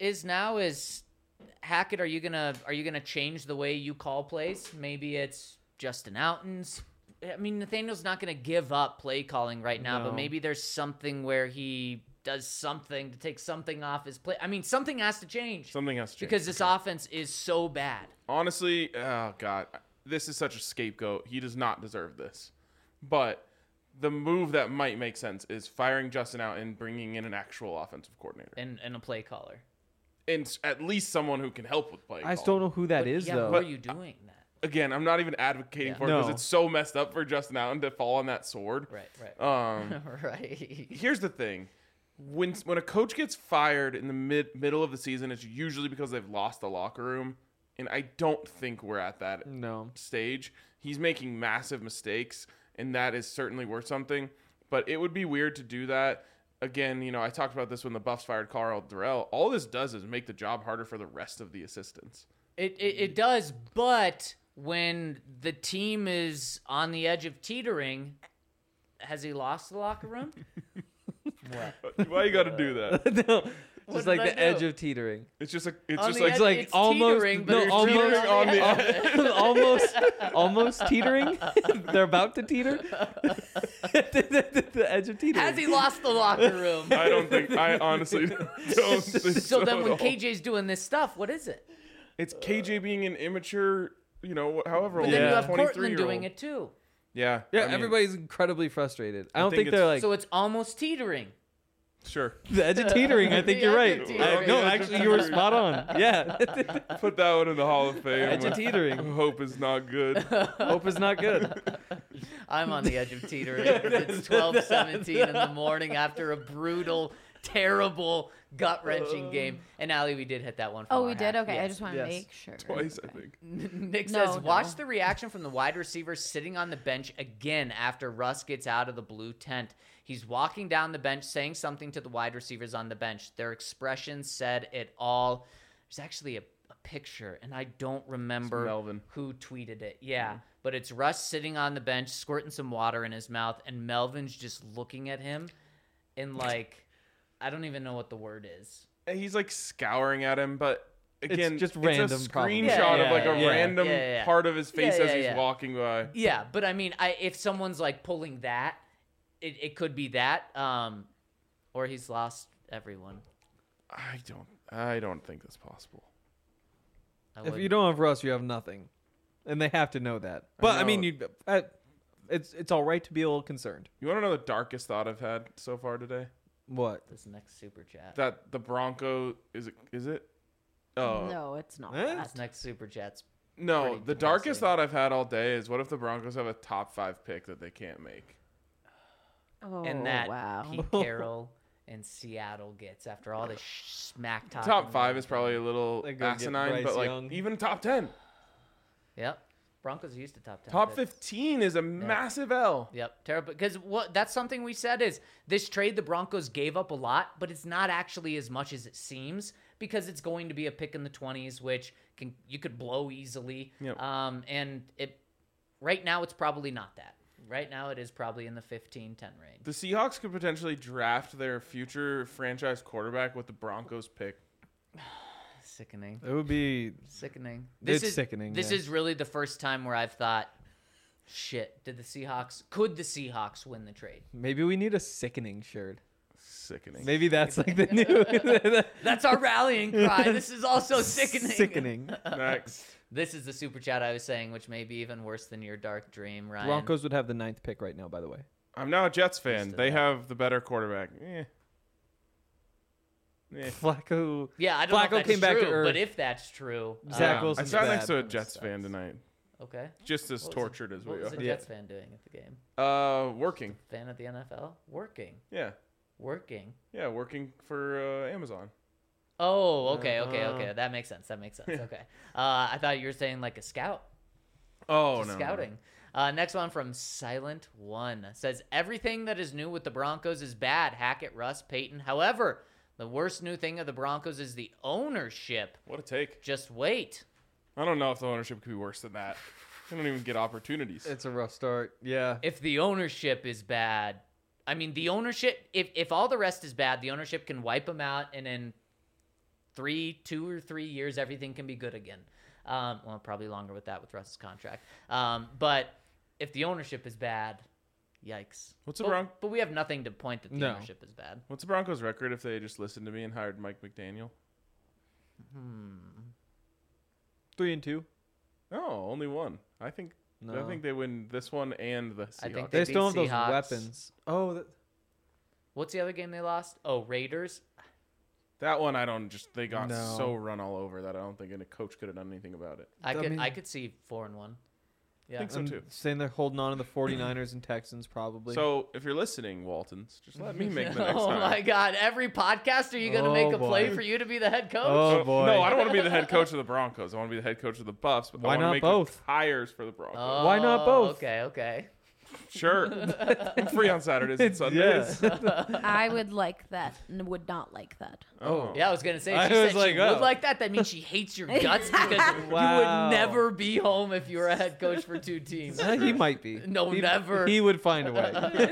Hackett, are you gonna change the way you call plays? Maybe it's Justin Outen's. I mean, Nathaniel's not going to give up play calling right now, but No. maybe there's something where he does something to take something off his play. I mean, something has to change. Something has to change. Because this offense is so bad. Honestly, oh God, this is such a scapegoat. He does not deserve this. But the move that might make sense is firing Justin out and bringing in an actual offensive coordinator. And a play caller. and at least someone who can help with playing. I still don't know who that is, Yeah, though. who are you doing that? Again, I'm not even advocating for it because No. it's so messed up for Justin Allen to fall on that sword. Right. Right. Here's the thing. When a coach gets fired in the middle of the season, it's usually because they've lost the locker room, and I don't think we're at that stage. He's making massive mistakes, and that is certainly worth something, but it would be weird to do that. Again, I talked about this when the Buffs fired Carl Durrell. All this does is make the job harder for the rest of the assistants. It does, but when the team is on the edge of teetering, has he lost the locker room? What? Why you got to do that? No, just like did I the edge do? of teetering. It's just like It's almost teetering, but no, it's almost teetering on the edge. almost teetering. They're about to teeter. The edge of teetering. Has he lost the locker room? I honestly don't think so. So then at when all. KJ's doing this stuff, what is it? It's KJ being an immature, however But old, then you have 23-year-old. Cortland doing it too. Yeah. Yeah, I mean, everybody's incredibly frustrated. I don't think think it's- they're like So it's almost teetering. Sure. the edge of teetering. I think The you're edge right. of teetering. No, The edge of actually, you were teetering. spot on. Yeah, Put that one in the Hall of Fame. edge of teetering. Hope is not good. Hope is not good. I'm on the edge of teetering. It's 12:17 in the morning after a brutal, terrible, gut-wrenching game. And Allie, we did hit that one. From Oh, our we did? hack. Okay, I Yes. just want to Yes. make sure. Twice, I think. Nick No, says, no. watch the reaction from the wide receiver sitting on the bench again after Russ gets out of the blue tent. He's walking down the bench saying something to the wide receivers on the bench. Their expressions said it all. There's actually a picture, and I don't remember Melvin. who tweeted it. Yeah, but it's Russ sitting on the bench, squirting some water in his mouth, and Melvin's just looking at him and like, I don't even know what the word is. And he's like scouring at him, but again, just it's random, a probably. screenshot Yeah, of like a yeah, random yeah. part of his face Yeah, as yeah, he's yeah. walking by. Yeah, but I mean, if someone's like pulling that, it could be that, or he's lost everyone. I don't think that's possible. If you don't have Russ, you have nothing, and they have to know that. But I mean, it's all right to be a little concerned. You want to know the darkest thought I've had so far today? What? This next super chat. That the Bronco is it? Oh No, it's not. Eh? This next super chat's no, pretty the darkest depressing. thought I've had all day is what if the Broncos have a top 5 pick that they can't make? Oh, and that wow. Pete Carroll and Seattle gets after all this smack talk. Top 5 is probably a little They go get asinine, Bryce but like Young. even top 10, Yep. Broncos are used to top 10. top picks. 15 is a massive L. Yep, terrible. Because that's something we said is this trade the Broncos gave up a lot, but it's not actually as much as it seems because it's going to be a pick in the 20s, which you could blow easily. Yep. And right now it's probably not that. Right now it is probably in the 15-10 range. The Seahawks could potentially draft their future franchise quarterback with the Broncos pick. Sickening. It would be Sickening. It's sickening, This yeah. is really the first time where I've thought, shit, could the Seahawks win the trade? maybe we need a sickening shirt. Sickening. Maybe that's like the new That's our rallying cry. This is also sickening. sickening. Next. This is the super chat I was saying, which may be even worse than your dark dream, Ryan. Broncos would have the 9th pick right now, by the way. I'm now a Jets fan. Used to They that. have the better quarterback. Flacco. Yeah, I don't know Flacco if that's came back to true, earth. but if that's true, Zach I Wilson's sat bad. next to a Jets fan tonight. okay. Just as What was tortured as What we was are. a Jets fan doing at the game? Working. Fan at the NFL? Working. Yeah. Working. Yeah, working for Amazon. Oh, okay. That makes sense. Okay. I thought you were saying like a scout. Oh, Just no. scouting. Next one from Silent One says everything that is new with the Broncos is bad. Hackett, Russ, Peyton. However, the worst new thing of the Broncos is the ownership. What a take. Just wait. I don't know if the ownership could be worse than that. They don't even get opportunities. It's a rough start. Yeah. If the ownership is bad, I mean the ownership. If all the rest is bad, the ownership can wipe them out, and in 2 or 3 years, everything can be good again. Well, probably longer with that with Russ's contract. But if the ownership is bad, yikes. But we have nothing to point that the ownership is bad. What's the Broncos' record if they just listened to me and hired Mike McDaniel? 3-2. Oh, only one. I think they win this one and the I think Seahawks. they They still have beat those Seahawks. weapons. Oh, What's the other game they lost? Oh, Raiders. That one, they got so run all over that I don't think any coach could have done anything about it. I could see 4-1. Yeah. I think so too. Saying they're holding on to the 49ers and Texans probably. So if you're listening, Waltons, just let me make the next Oh time. my God! Every podcast, are you going to make a play for you to be the head coach? Oh boy! No, I don't want to be the head coach of the Broncos. I want to be the head coach of the Buffs. But Why I want not to make both? hires for the Broncos. Why not both? Okay. Sure. I'm free on Saturdays and Sundays. I would like that and would not like that. Oh. Yeah, I was gonna say. I She said was like, she would oh. like that. That means she hates your guts because you Wow. would never be home if you were a head coach for 2 teams. He might be. No, never. He would find a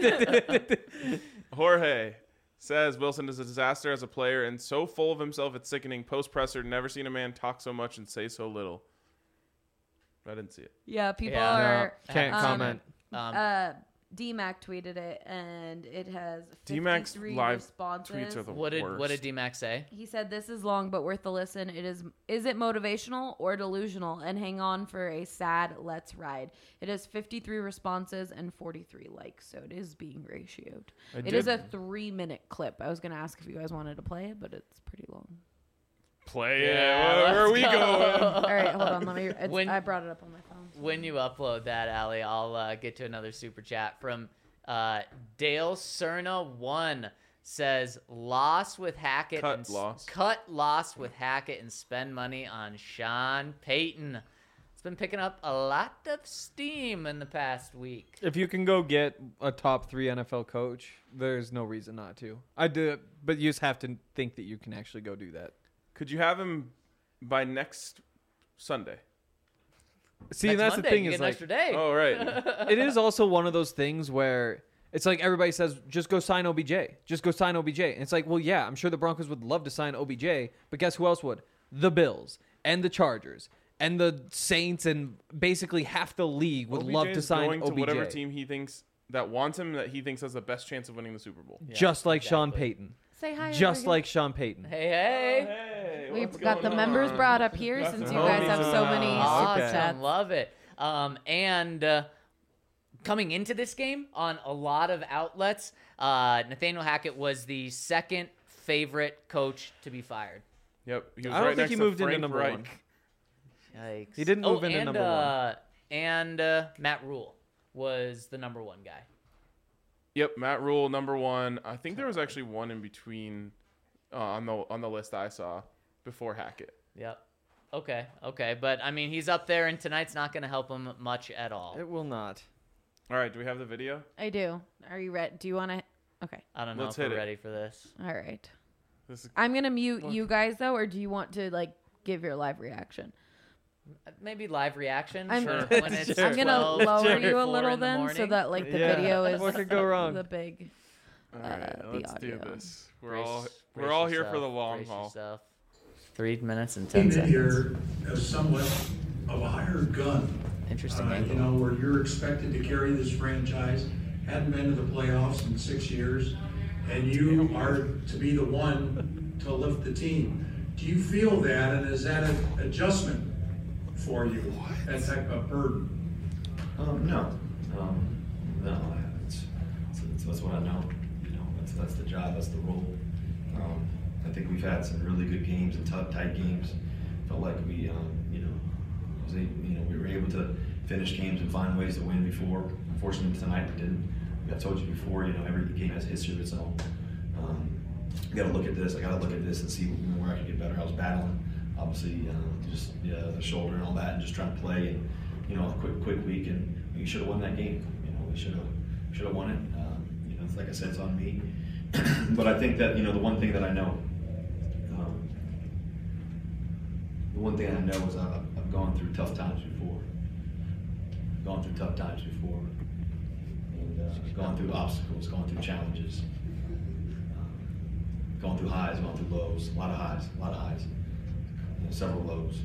way. Jorge says Wilson is a disaster as a player and so full of himself it's sickening. Post presser, never seen a man talk so much and say so little. I didn't see it. Yeah, people Yeah. are. Can't comment. DMAC tweeted it, and it has D-Mac's 53 live responses. tweets are the What worst. did D-Mac say? He said, "This is long, but worth the listen. Is it motivational or delusional? And hang on for a sad let's ride." It has 53 responses and 43 likes, so it is being ratioed. It is a 3-minute clip. I was going to ask if you guys wanted to play it, but it's pretty long. Play Yeah, it. Where are let's we go. going? All right, hold on. I brought it up on my phone. When you upload that, Allie, I'll get to another super chat from Dale Cerna 1 says loss with Hackett cut loss with Hackett and spend money on Sean Payton. It's been picking up a lot of steam in the past week. If you can go get a top 3 NFL coach, there's no reason not to. I do, but you just have to think that you can actually go do that. Could you have him by next Sunday? See, Next and that's Monday, the thing you is get an like, extra day. Oh, right. it is also one of those things where it's like everybody says, just go sign OBJ. Just go sign OBJ. And it's like, well, yeah, I'm sure the Broncos would love to sign OBJ, but guess who else would? The Bills and the Chargers and the Saints and basically half the league would love to sign going OBJ. to whatever team he thinks that wants him, that he thinks has the best chance of winning the Super Bowl. Yeah, just like exactly. Sean Payton. Say hi. Just Oregon. like Sean Payton. Hey. Hey, We've what's got the going members on? brought up here Got since the you guys homies have so in the many house. super Okay. chats. Love it. And coming into this game on a lot of outlets, Nathaniel Hackett was the second favorite coach to be fired. Yep. He was I don't right think next he to moved into Frank number Reich. one. Yikes. He didn't move into and, number one. And Matt Rule was the number 1 guy. Yep, Matt Rule, number 1. I think there was actually one in between on the list I saw before Hackett. Yep. Okay. But, I mean, he's up there, and tonight's not going to help him much at all. It will not. All right, do we have the video? I do. Are you ready? Do you want to? Okay. I don't know Let's if hit we're it. ready for this. All right. This is, I'm gonna mute you guys though, or do you want to like give your live reaction? Maybe live reaction. I'm- Sure. When it's Sure. I'm gonna 12, lower 3, you a 4 little in the then, so morning. that like the Yeah. video is What could go wrong? the big. all right, the let's do audio. this. We're Brace- all brace here yourself, for the long brace haul. yourself. 3 minutes and Came 10 in here seconds. as somewhat of a hired gun. Interesting angle. You know, where you're expected to carry this franchise, hadn't been to the playoffs in 6 years, and you are to be the one to lift the team. Do you feel that, and is that an adjustment for you, that type of burden? No. That's what I know. You know, that's the job, that's the role. I think we've had some really good games and tough, tight games. Felt like we, we were able to finish games and find ways to win before. Unfortunately, tonight we didn't. I told you before, you know, every game has a history of its own. I got to look at this. I got to look at this and see where I can get better. I was battling, obviously, the shoulder and all that, and just trying to play. And you know, a quick week, and we should have won that game. You know, we should have won it. You know, like I said, it's on me. But I think that, you know, the one thing I know is I've gone through tough times before. And gone through obstacles, gone through challenges, gone through highs, gone through lows, a lot of highs, you know, several lows.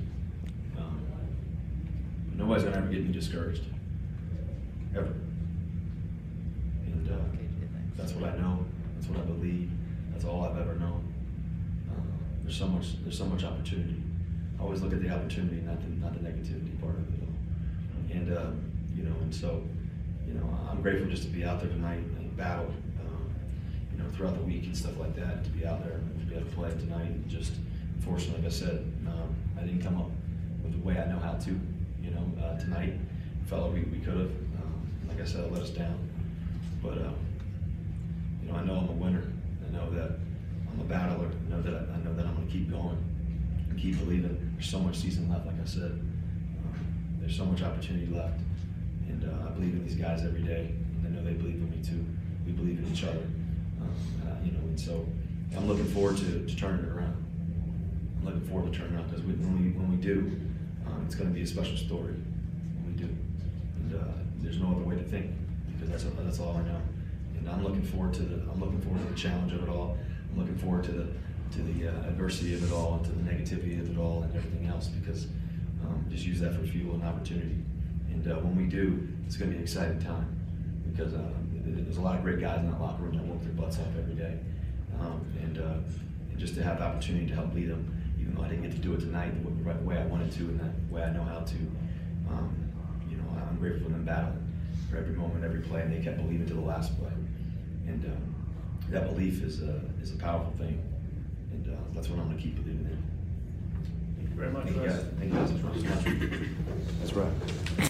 But nobody's gonna ever get me discouraged, ever. And that's what I know. That's what I believe. That's all I've ever known. There's so much opportunity. I always look at the opportunity, not the negativity part of it all. And you know, and so, you know, I'm grateful just to be out there tonight and battle. You throughout the week and stuff like that, to be out there and to be able to play tonight. And just, unfortunately, like I said, I didn't come up with the way I know how to. Tonight, felt like we could have. Like I said, it let us down. But I know I'm a winner. I know that I'm a battler. I know that I'm going to keep going and keep believing. There's so much season left. Like I said, there's so much opportunity left, and I believe in these guys every day. And I know they believe in me too. We believe in each other. And so I'm looking forward to turning it around. I'm looking forward to turning it around because when we do, it's going to be a special story when we do. And there's no other way to think because that's all I know. And I'm looking forward to the challenge of it all. I'm looking forward to the adversity of it all, and to the negativity of it all, and everything else because just use that for fuel and opportunity. And when we do, it's going to be an exciting time because there's a lot of great guys in that locker room that work their butts off every day. And just to have the opportunity to help lead them, even though I didn't get to do it tonight the way I wanted to and that way I know how to, I'm grateful for them battling for every moment, every play, and they kept believing to the last play. And that belief is a powerful thing, and that's what I'm going to keep believing in. Thank you very much. Thank you guys. That's right.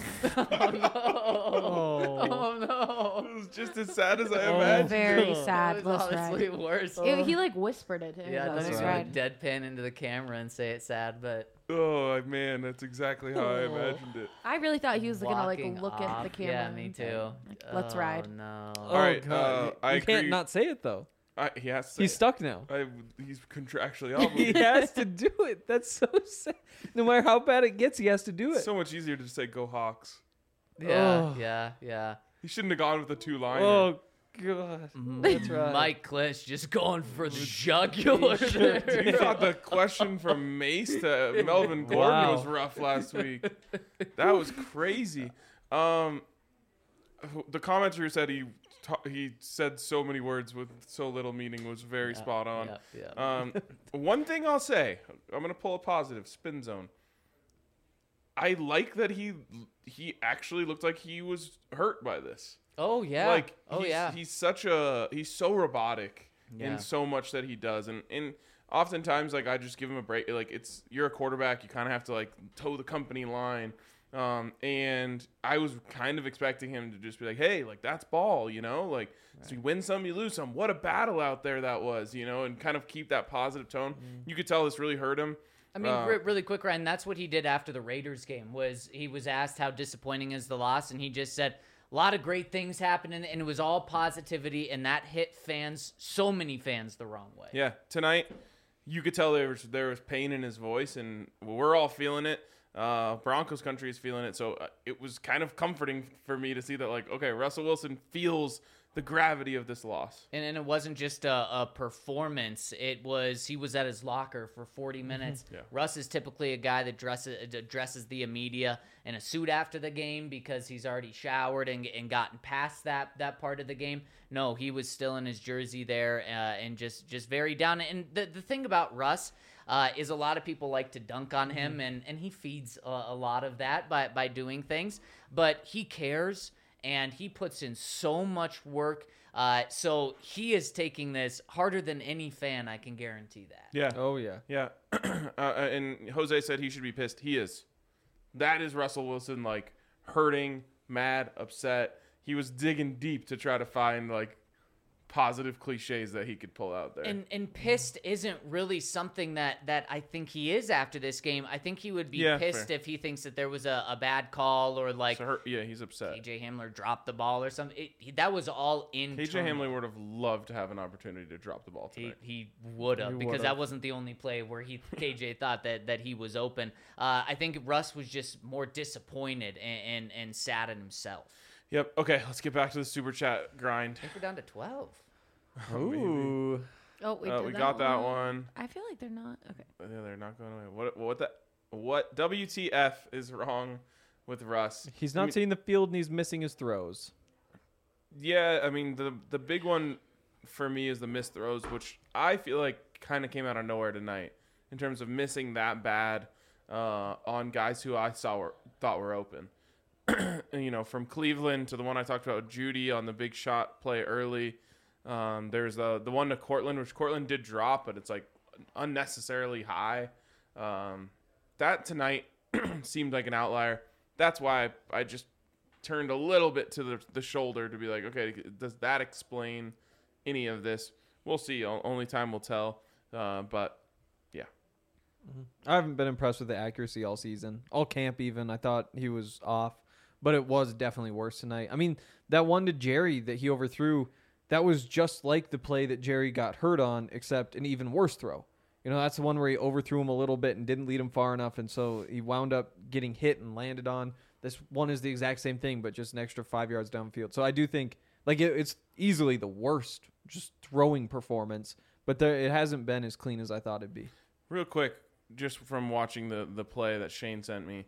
Oh no! It was just as sad as I imagined. Very sad. It was Let's honestly ride. worse. He like whispered it. Yeah, Let's that's ride. right. Deadpan into the camera and say it's sad, but Oh man, that's exactly how I imagined it. I really thought he was gonna like walking look at off. the camera. Yeah, me and say, too. like, Let's ride. No. Oh, right, God. I you can't agree. not say it though. He has to say He's it. stuck now. He's contractually He obligated. has to do it. That's so sad. No matter how bad it gets, he has to do it. It's so much easier to just say "Go Hawks." Yeah, Oh. yeah. He shouldn't have gone with the two-liner. Oh God, that's right. Mike Klisch just going for the jugular there. You thought the question from Mace to Melvin Gordon Wow. was rough last week. That was crazy. The commenter who said he said so many words with so little meaning was very spot on. Yeah. One thing I'll say, I'm gonna pull a positive spin zone. I like that he actually looked like he was hurt by this. Oh yeah. Like he's he's so robotic Yeah. in so much that he does, and oftentimes like I just give him a break. Like you're a quarterback, you kind of have to like toe the company line. And I was kind of expecting him to just be like, hey, like that's ball, like so you win some, you lose some. What a battle out there that was, and kind of keep that positive tone. You could tell this really hurt him. I mean, really quick, Ryan, that's what he did after the Raiders game. Was he was asked how disappointing is the loss, and he just said a lot of great things happened, and it was all positivity, and that hit so many fans the wrong way. Yeah, tonight you could tell there was pain in his voice, and we're all feeling it. Broncos country is feeling it, so it was kind of comforting for me to see that, like, okay, Russell Wilson feels the gravity of this loss. And it wasn't just a performance. He was at his locker for 40 minutes. Yeah. Russ is typically a guy that dresses the media in a suit after the game because he's already showered and gotten past that part of the game. No, he was still in his jersey there and just very down. And the thing about Russ is a lot of people like to dunk on him, and he feeds a lot of that by doing things. But he cares. And he puts in so much work. So he is taking this harder than any fan, I can guarantee that. Yeah. Oh yeah. Yeah. And Jose said he should be pissed. He is. That is Russell Wilson, like, hurting, mad, upset. He was digging deep to try to find, like, positive cliches that he could pull out there. And pissed isn't really something that I think he is after this game. I think he would be pissed fair. if he thinks that there was a bad call or like he's upset. KJ Hamler dropped the ball or something. That was all internal. KJ Hamler would have loved to have an opportunity to drop the ball tonight. He would have, because that wasn't the only play where KJ thought that he was open. I think Russ was just more disappointed and sad at himself. Yep. Okay, let's get back to the super chat grind. I think we're down to 12. Ooh. Oh, we got that one. I feel like they're not okay. Yeah, they're not going away. What WTF is wrong with Russ? He's not seeing the field and he's missing his throws. Yeah, I mean the big one for me is the missed throws, which I feel like kind of came out of nowhere tonight in terms of missing that bad on guys who I thought were open. From Cleveland to the one I talked about, Judy on the big shot play early. There's the one to Cortland, which Cortland did drop, but it's like unnecessarily high. That tonight seemed like an outlier. That's why I just turned a little bit to the shoulder to be like, okay, does that explain any of this? We'll see. Only time will tell. But yeah. I haven't been impressed with the accuracy all season. All camp even. I thought he was off, but it was definitely worse tonight. I mean, that one to Jerry that he overthrew, that was just like the play that Jerry got hurt on, except an even worse throw. You know, that's the one where he overthrew him a little bit and didn't lead him far enough, and so he wound up getting hit and landed on. This one is the exact same thing, but just an extra 5 yards downfield. So I do think like it's easily the worst just throwing performance, but it hasn't been as clean as I thought it'd be. Real quick, just from watching the play that Shane sent me,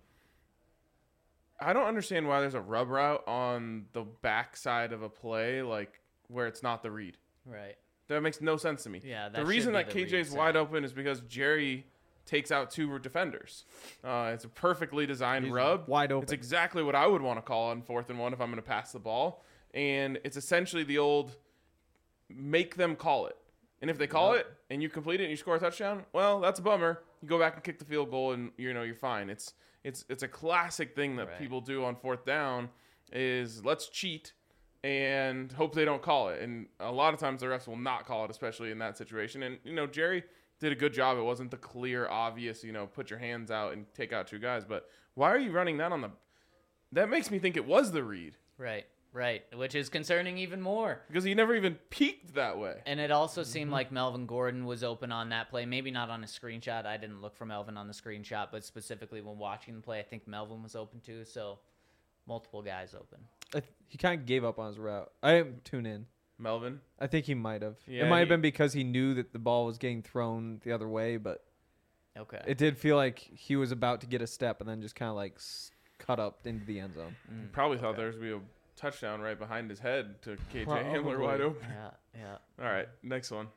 I don't understand why there's a rub route on the backside of a play, like where it's not the read. Right. That makes no sense to me. Yeah, the reason that KJ's wide open is because Jerry takes out 2 defenders. It's a perfectly designed rub. Wide open. It's exactly what I would want to call on 4th and 1 if I'm going to pass the ball. And it's essentially the old make them call it. And if they call it and you complete it and you score a touchdown, well, that's a bummer. You go back and kick the field goal and you're fine. It's a classic thing that people do on 4th down is let's cheat and hope they don't call it. And a lot of times the refs will not call it, especially in that situation. And, Jerry did a good job. It wasn't the clear, obvious, put your hands out and take out 2 guys. But why are you running that that makes me think it was the read. Right. Which is concerning even more. Because he never even peeked that way. And it also seemed like Melvin Gordon was open on that play. Maybe not on a screenshot. I didn't look for Melvin on the screenshot, but specifically when watching the play, I think Melvin was open too. So multiple guys open. He kind of gave up on his route. I didn't tune in. Melvin? I think he might have. Yeah, it might have been because he knew that the ball was getting thrown the other way, but okay, it did feel like he was about to get a step and then just kind of like cut up into the end zone. Probably thought there was going to be a touchdown right behind his head to KJ Hamler wide open. Yeah. All right, next one.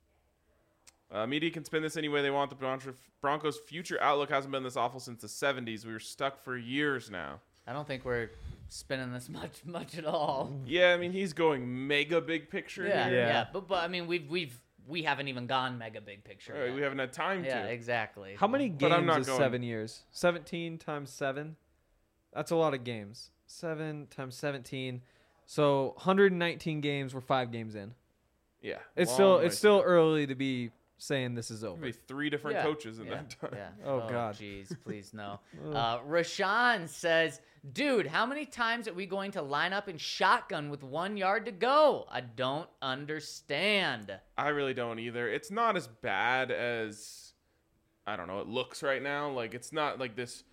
Media can spin this any way they want. The Broncos' future outlook hasn't been this awful since the 70s. We were stuck for years now. I don't think we're spinning this much at all. Yeah, I mean, he's going mega big picture here. Yeah. But I mean, we haven't even gone mega big picture. Right, we haven't had time to. Yeah, exactly. How many games is going... 7 years? 17 times 7? That's a lot of games. 7 times 17. So 119 games. We're 5 games in. Yeah. It's still early to be saying this is over. Maybe 3 different coaches in that time. Yeah. Oh God. Jeez, please no. Rashawn says, dude, how many times are we going to line up in shotgun with 1 yard to go? I don't understand. I really don't either. It's not as bad as, I don't know, it looks right now. Like, it's not like this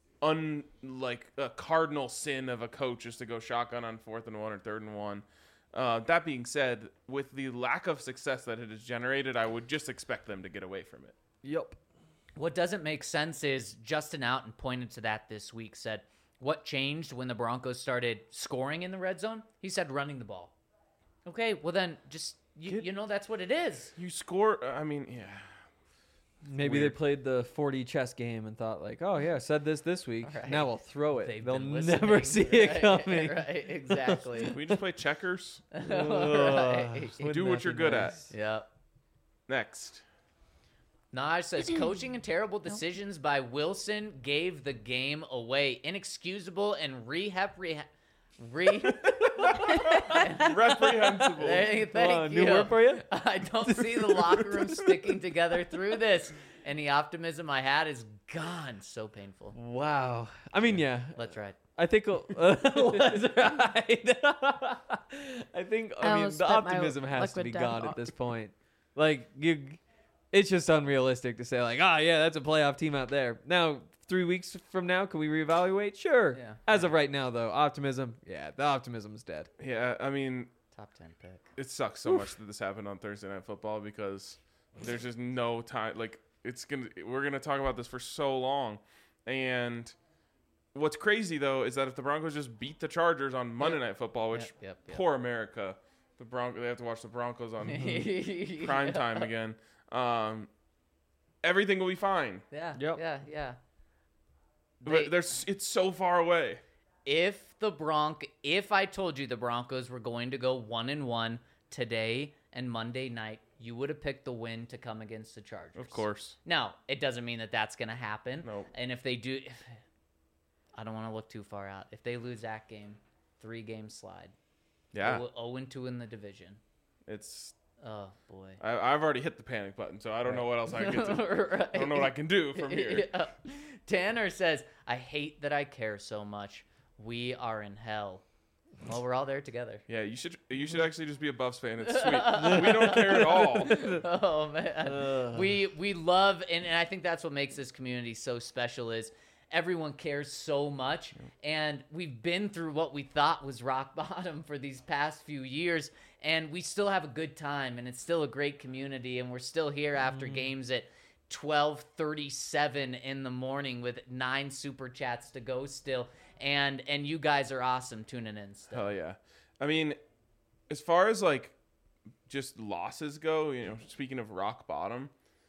like a cardinal sin of a coach is to go shotgun on 4th and 1 or 3rd and 1. That being said, with the lack of success that it has generated, I would just expect them to get away from it. Yep. What doesn't make sense is Justin Outen pointed to that this week, said, what changed when the Broncos started scoring in the red zone? He said running the ball. Okay, well then just, that's what it is. You score, I mean, yeah. Maybe Weird. they played the 4D chess game and thought like, oh yeah, said this week. Right. Now we'll throw it. They've They'll been never listening. see it coming. Right, exactly. Can we just play checkers? Right. Do what you're good at. Yep. Next. Naj says, coaching and terrible decisions by Wilson gave the game away. Inexcusable and Reprehensible. Thank you. New word for you? I don't see the locker room sticking together through this. And the optimism I had is gone. So painful. Wow. I mean, yeah. Let's ride. I think let's ride. I mean, almost the spit my optimism has to liquid be down. gone at this point. Like, it's just unrealistic to say, like, yeah, that's a playoff team out there. Now, 3 weeks from now, can we reevaluate? Sure. Yeah. As of right now, though, the optimism is dead. Yeah, I mean, Top 10 pick. it sucks so much that this happened on Thursday Night Football because there's just no time. Like, we're gonna talk about this for so long, and what's crazy though is that if the Broncos just beat the Chargers on Monday Night Football, which Yep. poor America, they have to watch the Broncos on prime time again. Everything will be fine. Yeah. Yep. Yeah. But it's so far away. If I told you the Broncos were going to go 1-1, today and Monday night, you would have picked the win to come against the Chargers. Of course. Now, it doesn't mean that that's going to happen. Nope. And if they do, I don't want to look too far out. If they lose that game, 3-game slide. Yeah. 0-2 in the division. It's. Oh, boy. I've already hit the panic button, so I don't know what else I can do. Right. I don't know what I can do from here. Yeah. Tanner says, I hate that I care so much. We are in hell. Well, we're all there together. Yeah, you should actually just be a Buffs fan. It's sweet. We don't care at all. Oh, man. We love, and I think that's what makes this community so special is everyone cares so much, and we've been through what we thought was rock bottom for these past few years, and we still have a good time, and it's still a great community, and we're still here after games at 12:37 in the morning with 9 super chats to go still, and you guys are awesome tuning in still. Hell yeah. I mean, as far as like just losses go, speaking of rock bottom,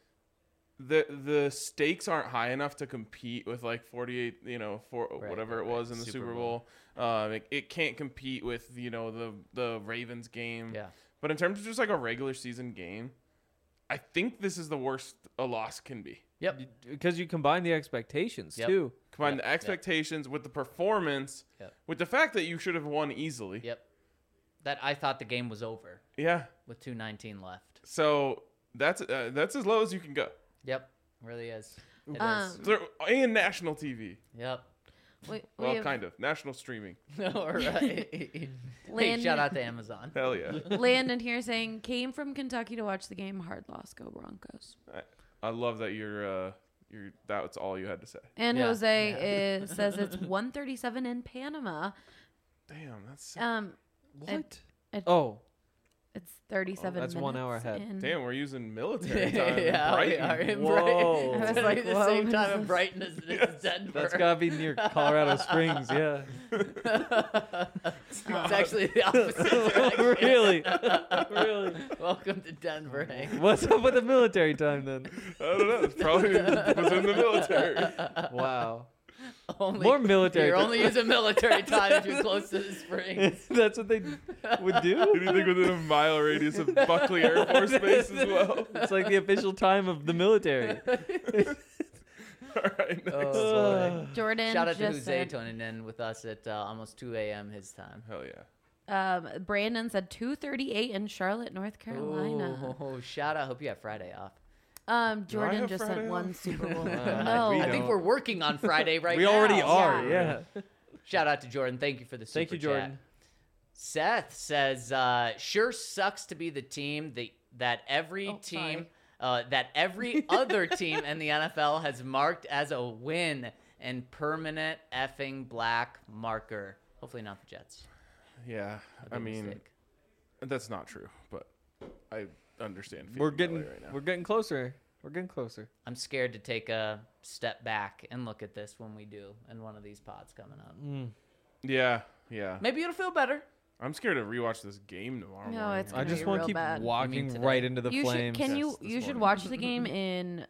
the stakes aren't high enough to compete with like 48, whatever it was in the Super Bowl. It can't compete with, the Ravens game. Yeah. But in terms of just like a regular season game, I think this is the worst a loss can be. Yep. Because you combine the expectations too. Combine the expectations with the performance, with the fact that you should have won easily. Yep. That I thought the game was over. Yeah. With 2:19 left. So that's as low as you can go. Yep. Really is. It is. And national TV. Yep. Well, kind of. National streaming. All right. Hey, shout out to Amazon. Hell yeah. Landon here saying, came from Kentucky to watch the game. Hard loss. Go Broncos. I love that you're that's all you had to say. And Jose says it's 1:37 in Panama. Damn, that's What? It's 37 that's minutes 1 hour ahead. in. damn. We're using military time. Yeah, we Brighton. are in Whoa. Brighton. I was It's like, the whoa, same what time is in this? Brighton as it is Denver. That's gotta be near Colorado Springs, yeah. It's actually the opposite direction. Really? Welcome to Denver, Hank. What's up with the military time then? I don't know. It's probably was in the military. Wow. Only, More military You're time. only using military time if you're close to the springs. That's what they would do? Anything within a mile radius of Buckley Air Force Base as well. It's like the official time of the military. All right. Next. Jordan Shout out to just Jose said, tuning in with us at almost 2 a.m. his time. Hell yeah. Brandon said 2:38 in Charlotte, North Carolina. Oh, shout out. Hope you have Friday off. Jordan have just Friday sent one off? Super Bowl. we no. I think don't. we're working on Friday right We now. already are, Yeah. yeah. Shout out to Jordan. Thank you for the super Thank you, Jordan. chat. Seth says, sure sucks to be the team that every team, that every other team in the NFL has marked as a win and permanent effing black marker. Hopefully not the Jets. Yeah. I mean, Mistake. that's not true, but I understand. We're feeling getting right now. we're getting closer. We're getting closer. I'm scared to take a step back and look at this when we do in one of these pods coming up. Yeah. Maybe it'll feel better. I'm scared to rewatch this game tomorrow. No, morning. it's I gonna just be want to real keep bad. You walking mean right today? into the You flames. should, Yes, this you should morning. watch the game in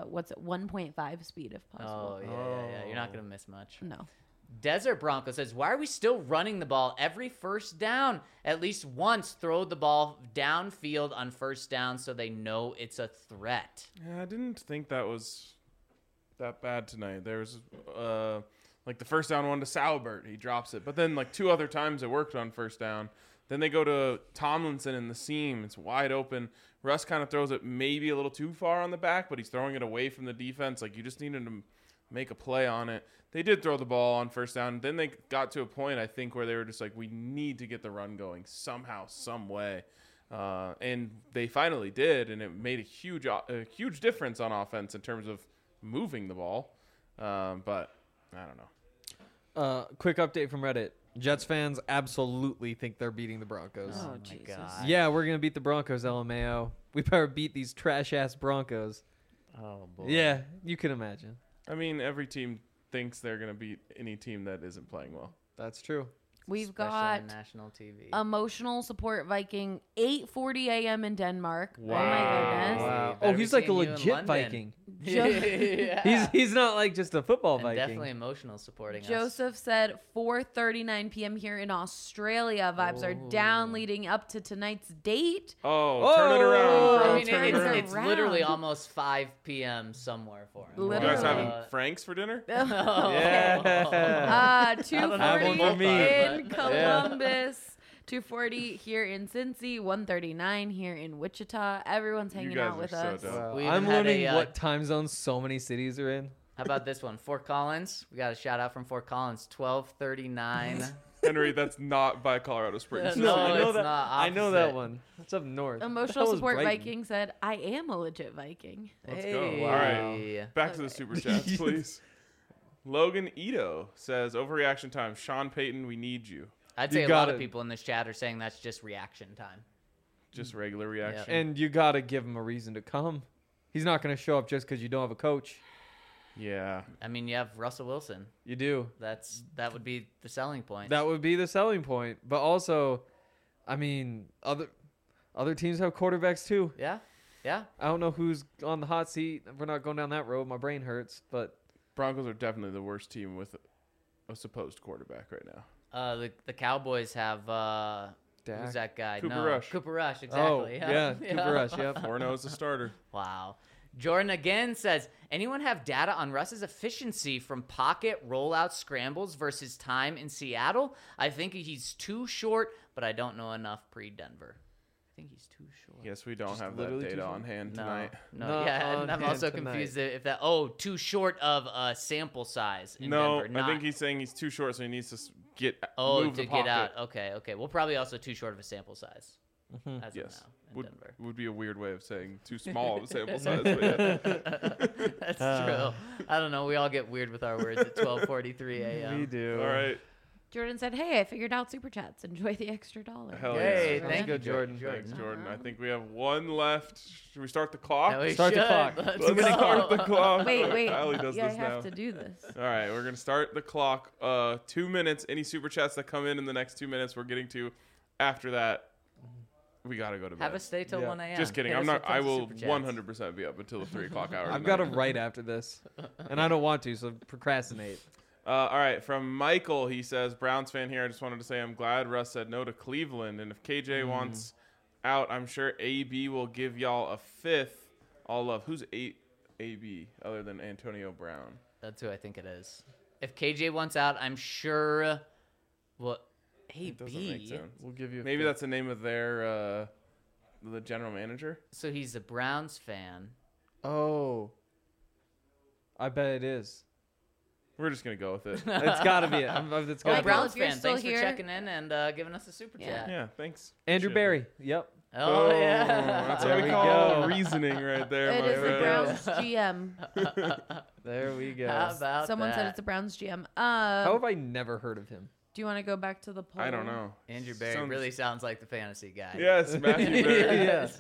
1.5 speed if possible. Oh, yeah. You're not going to miss much. No. Desert Bronco says, why are we still running the ball every first down? At least once throw the ball downfield on first down so they know it's a threat. Yeah, I didn't think that was that bad tonight. There was like the first down one to Salbert. He drops it. But then like 2 other times it worked on first down. Then they go to Tomlinson in the seam. It's wide open. Russ kind of throws it maybe a little too far on the back, but he's throwing it away from the defense. Like you just needed to make a play on it. They did throw the ball on first down. Then they got to a point, I think, where they were just like, we need to get the run going somehow, some way. And they finally did, and it made a huge difference on offense in terms of moving the ball. But I don't know. Quick update from Reddit. Jets fans absolutely think they're beating the Broncos. Oh, my Jesus. God. Yeah, we're gonna beat the Broncos, LMAO. We better beat these trash ass Broncos. Oh, boy. Yeah, you can imagine. I mean, every team thinks they're going to beat any team that isn't playing well. That's true. We've Especially got on national TV. Emotional Support Viking, 8:40 a.m. in Denmark. Wow. Oh my goodness. Wow. Better Oh, be he's like a seeing you in legit London. Viking. Yeah. He's not like just a football And Viking. definitely emotional supporting us. Joseph said 4:39 p.m. here in Australia. Vibes are down leading up to tonight's date. Oh, turn it around, bro. I mean, turn it around. it's literally almost 5 p.m. somewhere for him. You Literally. guys having Franks for dinner? Yeah. 2:40 one for me. in Columbus. 2:40 here in Cincy. 1:39 here in Wichita. Everyone's hanging guys out with are us. so dope. We even I'm had learning a, what time zones so many cities are in. How about this one? Fort Collins. We got a shout out from Fort Collins. 12:39. Henry, that's not by Colorado Springs. No, I know it's that. not I know that opposite. one. It's up north. Emotional That was Support Brighton. Viking said, I am a legit Viking. Let's Hey. go. All right. Back to the super chats, please. Logan Ito says, overreaction time. Sean Payton, we need you. I'd You say a got lot of it. people in this chat are saying that's just reaction time. Just regular reaction. And you got to give him a reason to come. He's not going to show up just because you don't have a coach. Yeah. I mean, you have Russell Wilson. You do. That would be the selling point. That would be the selling point. But also, I mean, other teams have quarterbacks too. Yeah. Yeah. I don't know who's on the hot seat. We're not going down that road. My brain hurts. But Broncos are definitely the worst team with a supposed quarterback right now. The Cowboys have Dak. who's that guy? Cooper no, Rush. Cooper Rush, oh exactly. yeah, Cooper Rush. Yep. 4-0 is the starter. Wow. Jordan again says, anyone have data on Russ's efficiency from pocket rollout scrambles versus time in Seattle? I think he's too short, but I don't know enough pre-Denver. I think he's too short. Yes, we don't Just have that literally too data short? on hand No, tonight. no, Not yeah, on and I'm hand also tonight. confused if that, too short of a sample size in No, Denver. I Not, think he's saying he's too short, so he needs to to move the get pocket. out. Okay. Well, probably also too short of a sample size. As Yes, of now in Denver. would be a weird way of saying too small of a sample size. But yeah. That's true. I don't know. We all get weird with our words at 12:43 a.m. We do. All right. Jordan said, hey, I figured out Super Chats. Enjoy the extra $1. Hell Hey, yeah. thank you, good, Jordan. Thanks, Jordan. I think we have one left. Should we start the clock? Yeah, we Start the should. clock. Let's Let's go. start the clock. Wait. Allie does Yeah, I this have now. to do this. All right, we're gonna start the clock. 2 minutes. Any super chats that come in the next 2 minutes, we're getting to. After that, we gotta go to bed. Have us stay till Yeah. 1 a.m. Just kidding. Hit I'm us not. with I tons of will super chats. 100% be up until the 3 o'clock hour. I've got to tonight. write after this, and I don't want to, so procrastinate. All right, from Michael, he says, Browns fan here. I just wanted to say I'm glad Russ said no to Cleveland, and if KJ wants out, I'm sure AB will give y'all a 5th. All love. Who's AB other than Antonio Brown? That's who I think it is. If KJ wants out, I'm sure. Well, It doesn't make AB. sense. We'll give you. Maybe that's the name of their the general manager. So he's a Browns fan. Oh, I bet it is. We're just gonna go with it. It's got to be it. It's Well, got to be Michael, it. Browns if you're fan, still thanks here- for checking in and giving us a super Yeah. chat. Yeah, thanks. Andrew Appreciate it. Barry. Yep. Oh, yeah. That's There what we we call go. reasoning right there. It my is the friend. Browns GM. There we go. How about Someone that? said it's a Browns GM. How have I never heard of him? Do you want to go back to the poll? I don't know. Andrew Barry Sounds- really sounds like the fantasy guy. Yes, Matthew Barry. Yes.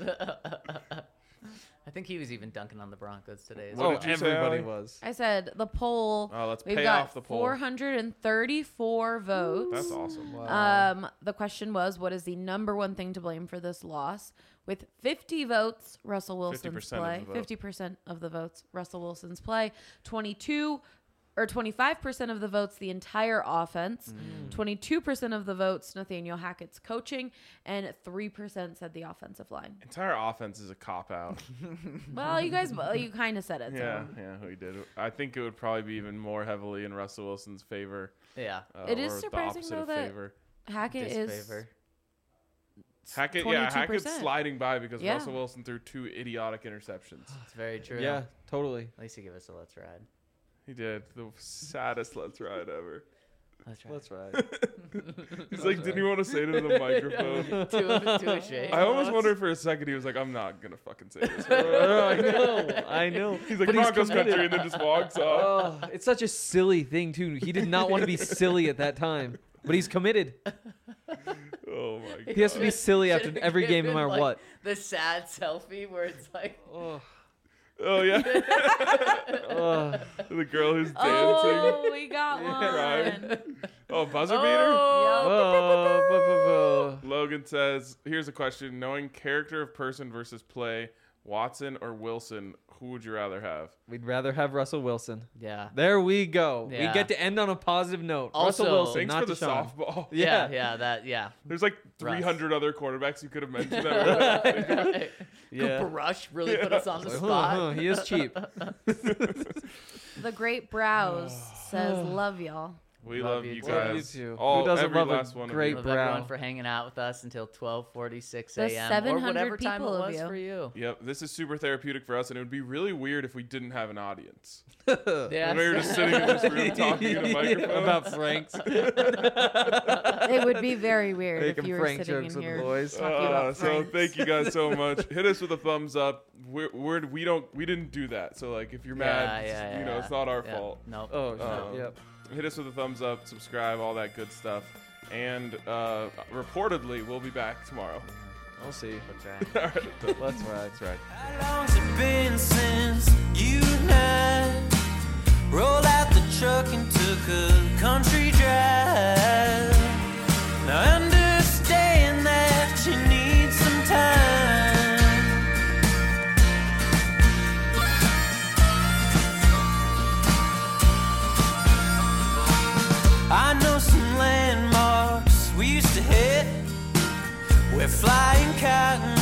I think he was even dunking on the Broncos today. As What well. did you say, Everybody Allie? was. I said the poll. Oh, let's We've pay got off the poll. 434 votes. That's awesome. The question was, what is the number one thing to blame for this loss? With 50 votes, Russell Wilson's 50% of play. the vote. 50% of the votes, Russell Wilson's play. 25% of the votes, the entire offense. 22% of the votes, Nathaniel Hackett's coaching, and 3% said the offensive line. Entire offense is a cop out. Well, you kind of said it. Yeah, So. yeah, we did. I think it would probably be even more heavily in Russell Wilson's favor. Yeah. It is or the surprising, opposite though, of that favor. Hackett is Disfavor. Hackett, 22%. Hackett's sliding by because Yeah. Russell Wilson threw 2 idiotic interceptions. It's very true. Yeah, totally. At least he gave us a let's ride. He did the saddest let's ride ever. Let's ride. That's right. He's like, didn't he want to say it into the microphone? Too ashamed. I almost wondered for a second. He was like, I'm not gonna fucking say this. I know. He's like But Broncos committed. country, and then just walks off. Oh, it's such a silly thing too. He did not want to be silly at that time, but he's committed. Oh my god. He has to be silly after Should've every game, no given, matter like, what. The sad selfie where it's like, Oh, Oh yeah. The girl who's dancing. Oh, we got Right. one. Oh, buzzer beater. Oh, Logan says, "Here's a question: knowing character of person versus play, Watson or Wilson, who would you rather have?" we'd rather have Russell Wilson. Yeah. There we go. Yeah. We get to end on a positive note. Also, Russell Wilson, Thanks not for the Deshaun. softball. Yeah. There's like 300 other quarterbacks you could have mentioned. That Yeah. Cooper Rush really put us on the spot. He is cheap. The Great Brows says, "Love y'all." we Love love you you too. guys. Love you too. All, Who doesn't every love a last one great of Love everyone brow? for hanging out with us until 12:46 The a.m. or 700 whatever time it people of was you. for you. you. Yep, this is super therapeutic for us, and it would be really weird if we didn't have an audience. Yeah. And we were just sitting in this room talking in a microphone. About Franks. It would be very weird if Making you were Frank sitting jokes in with the here boys. talking about So Franks. thank you guys so much. Hit us with a thumbs up. We didn't do that. So like if you're mad, Yeah. you know, it's not our Yeah. fault. Nope. Oh, Yep. Hit us with a thumbs up, subscribe, all that good stuff. And reportedly, we'll be back tomorrow. We'll see. All right. That's right. How long's it been since you and I rolled out the truck and took a country drive? Now I understand that you need some time. I know some landmarks we used to hit. We're flying cotton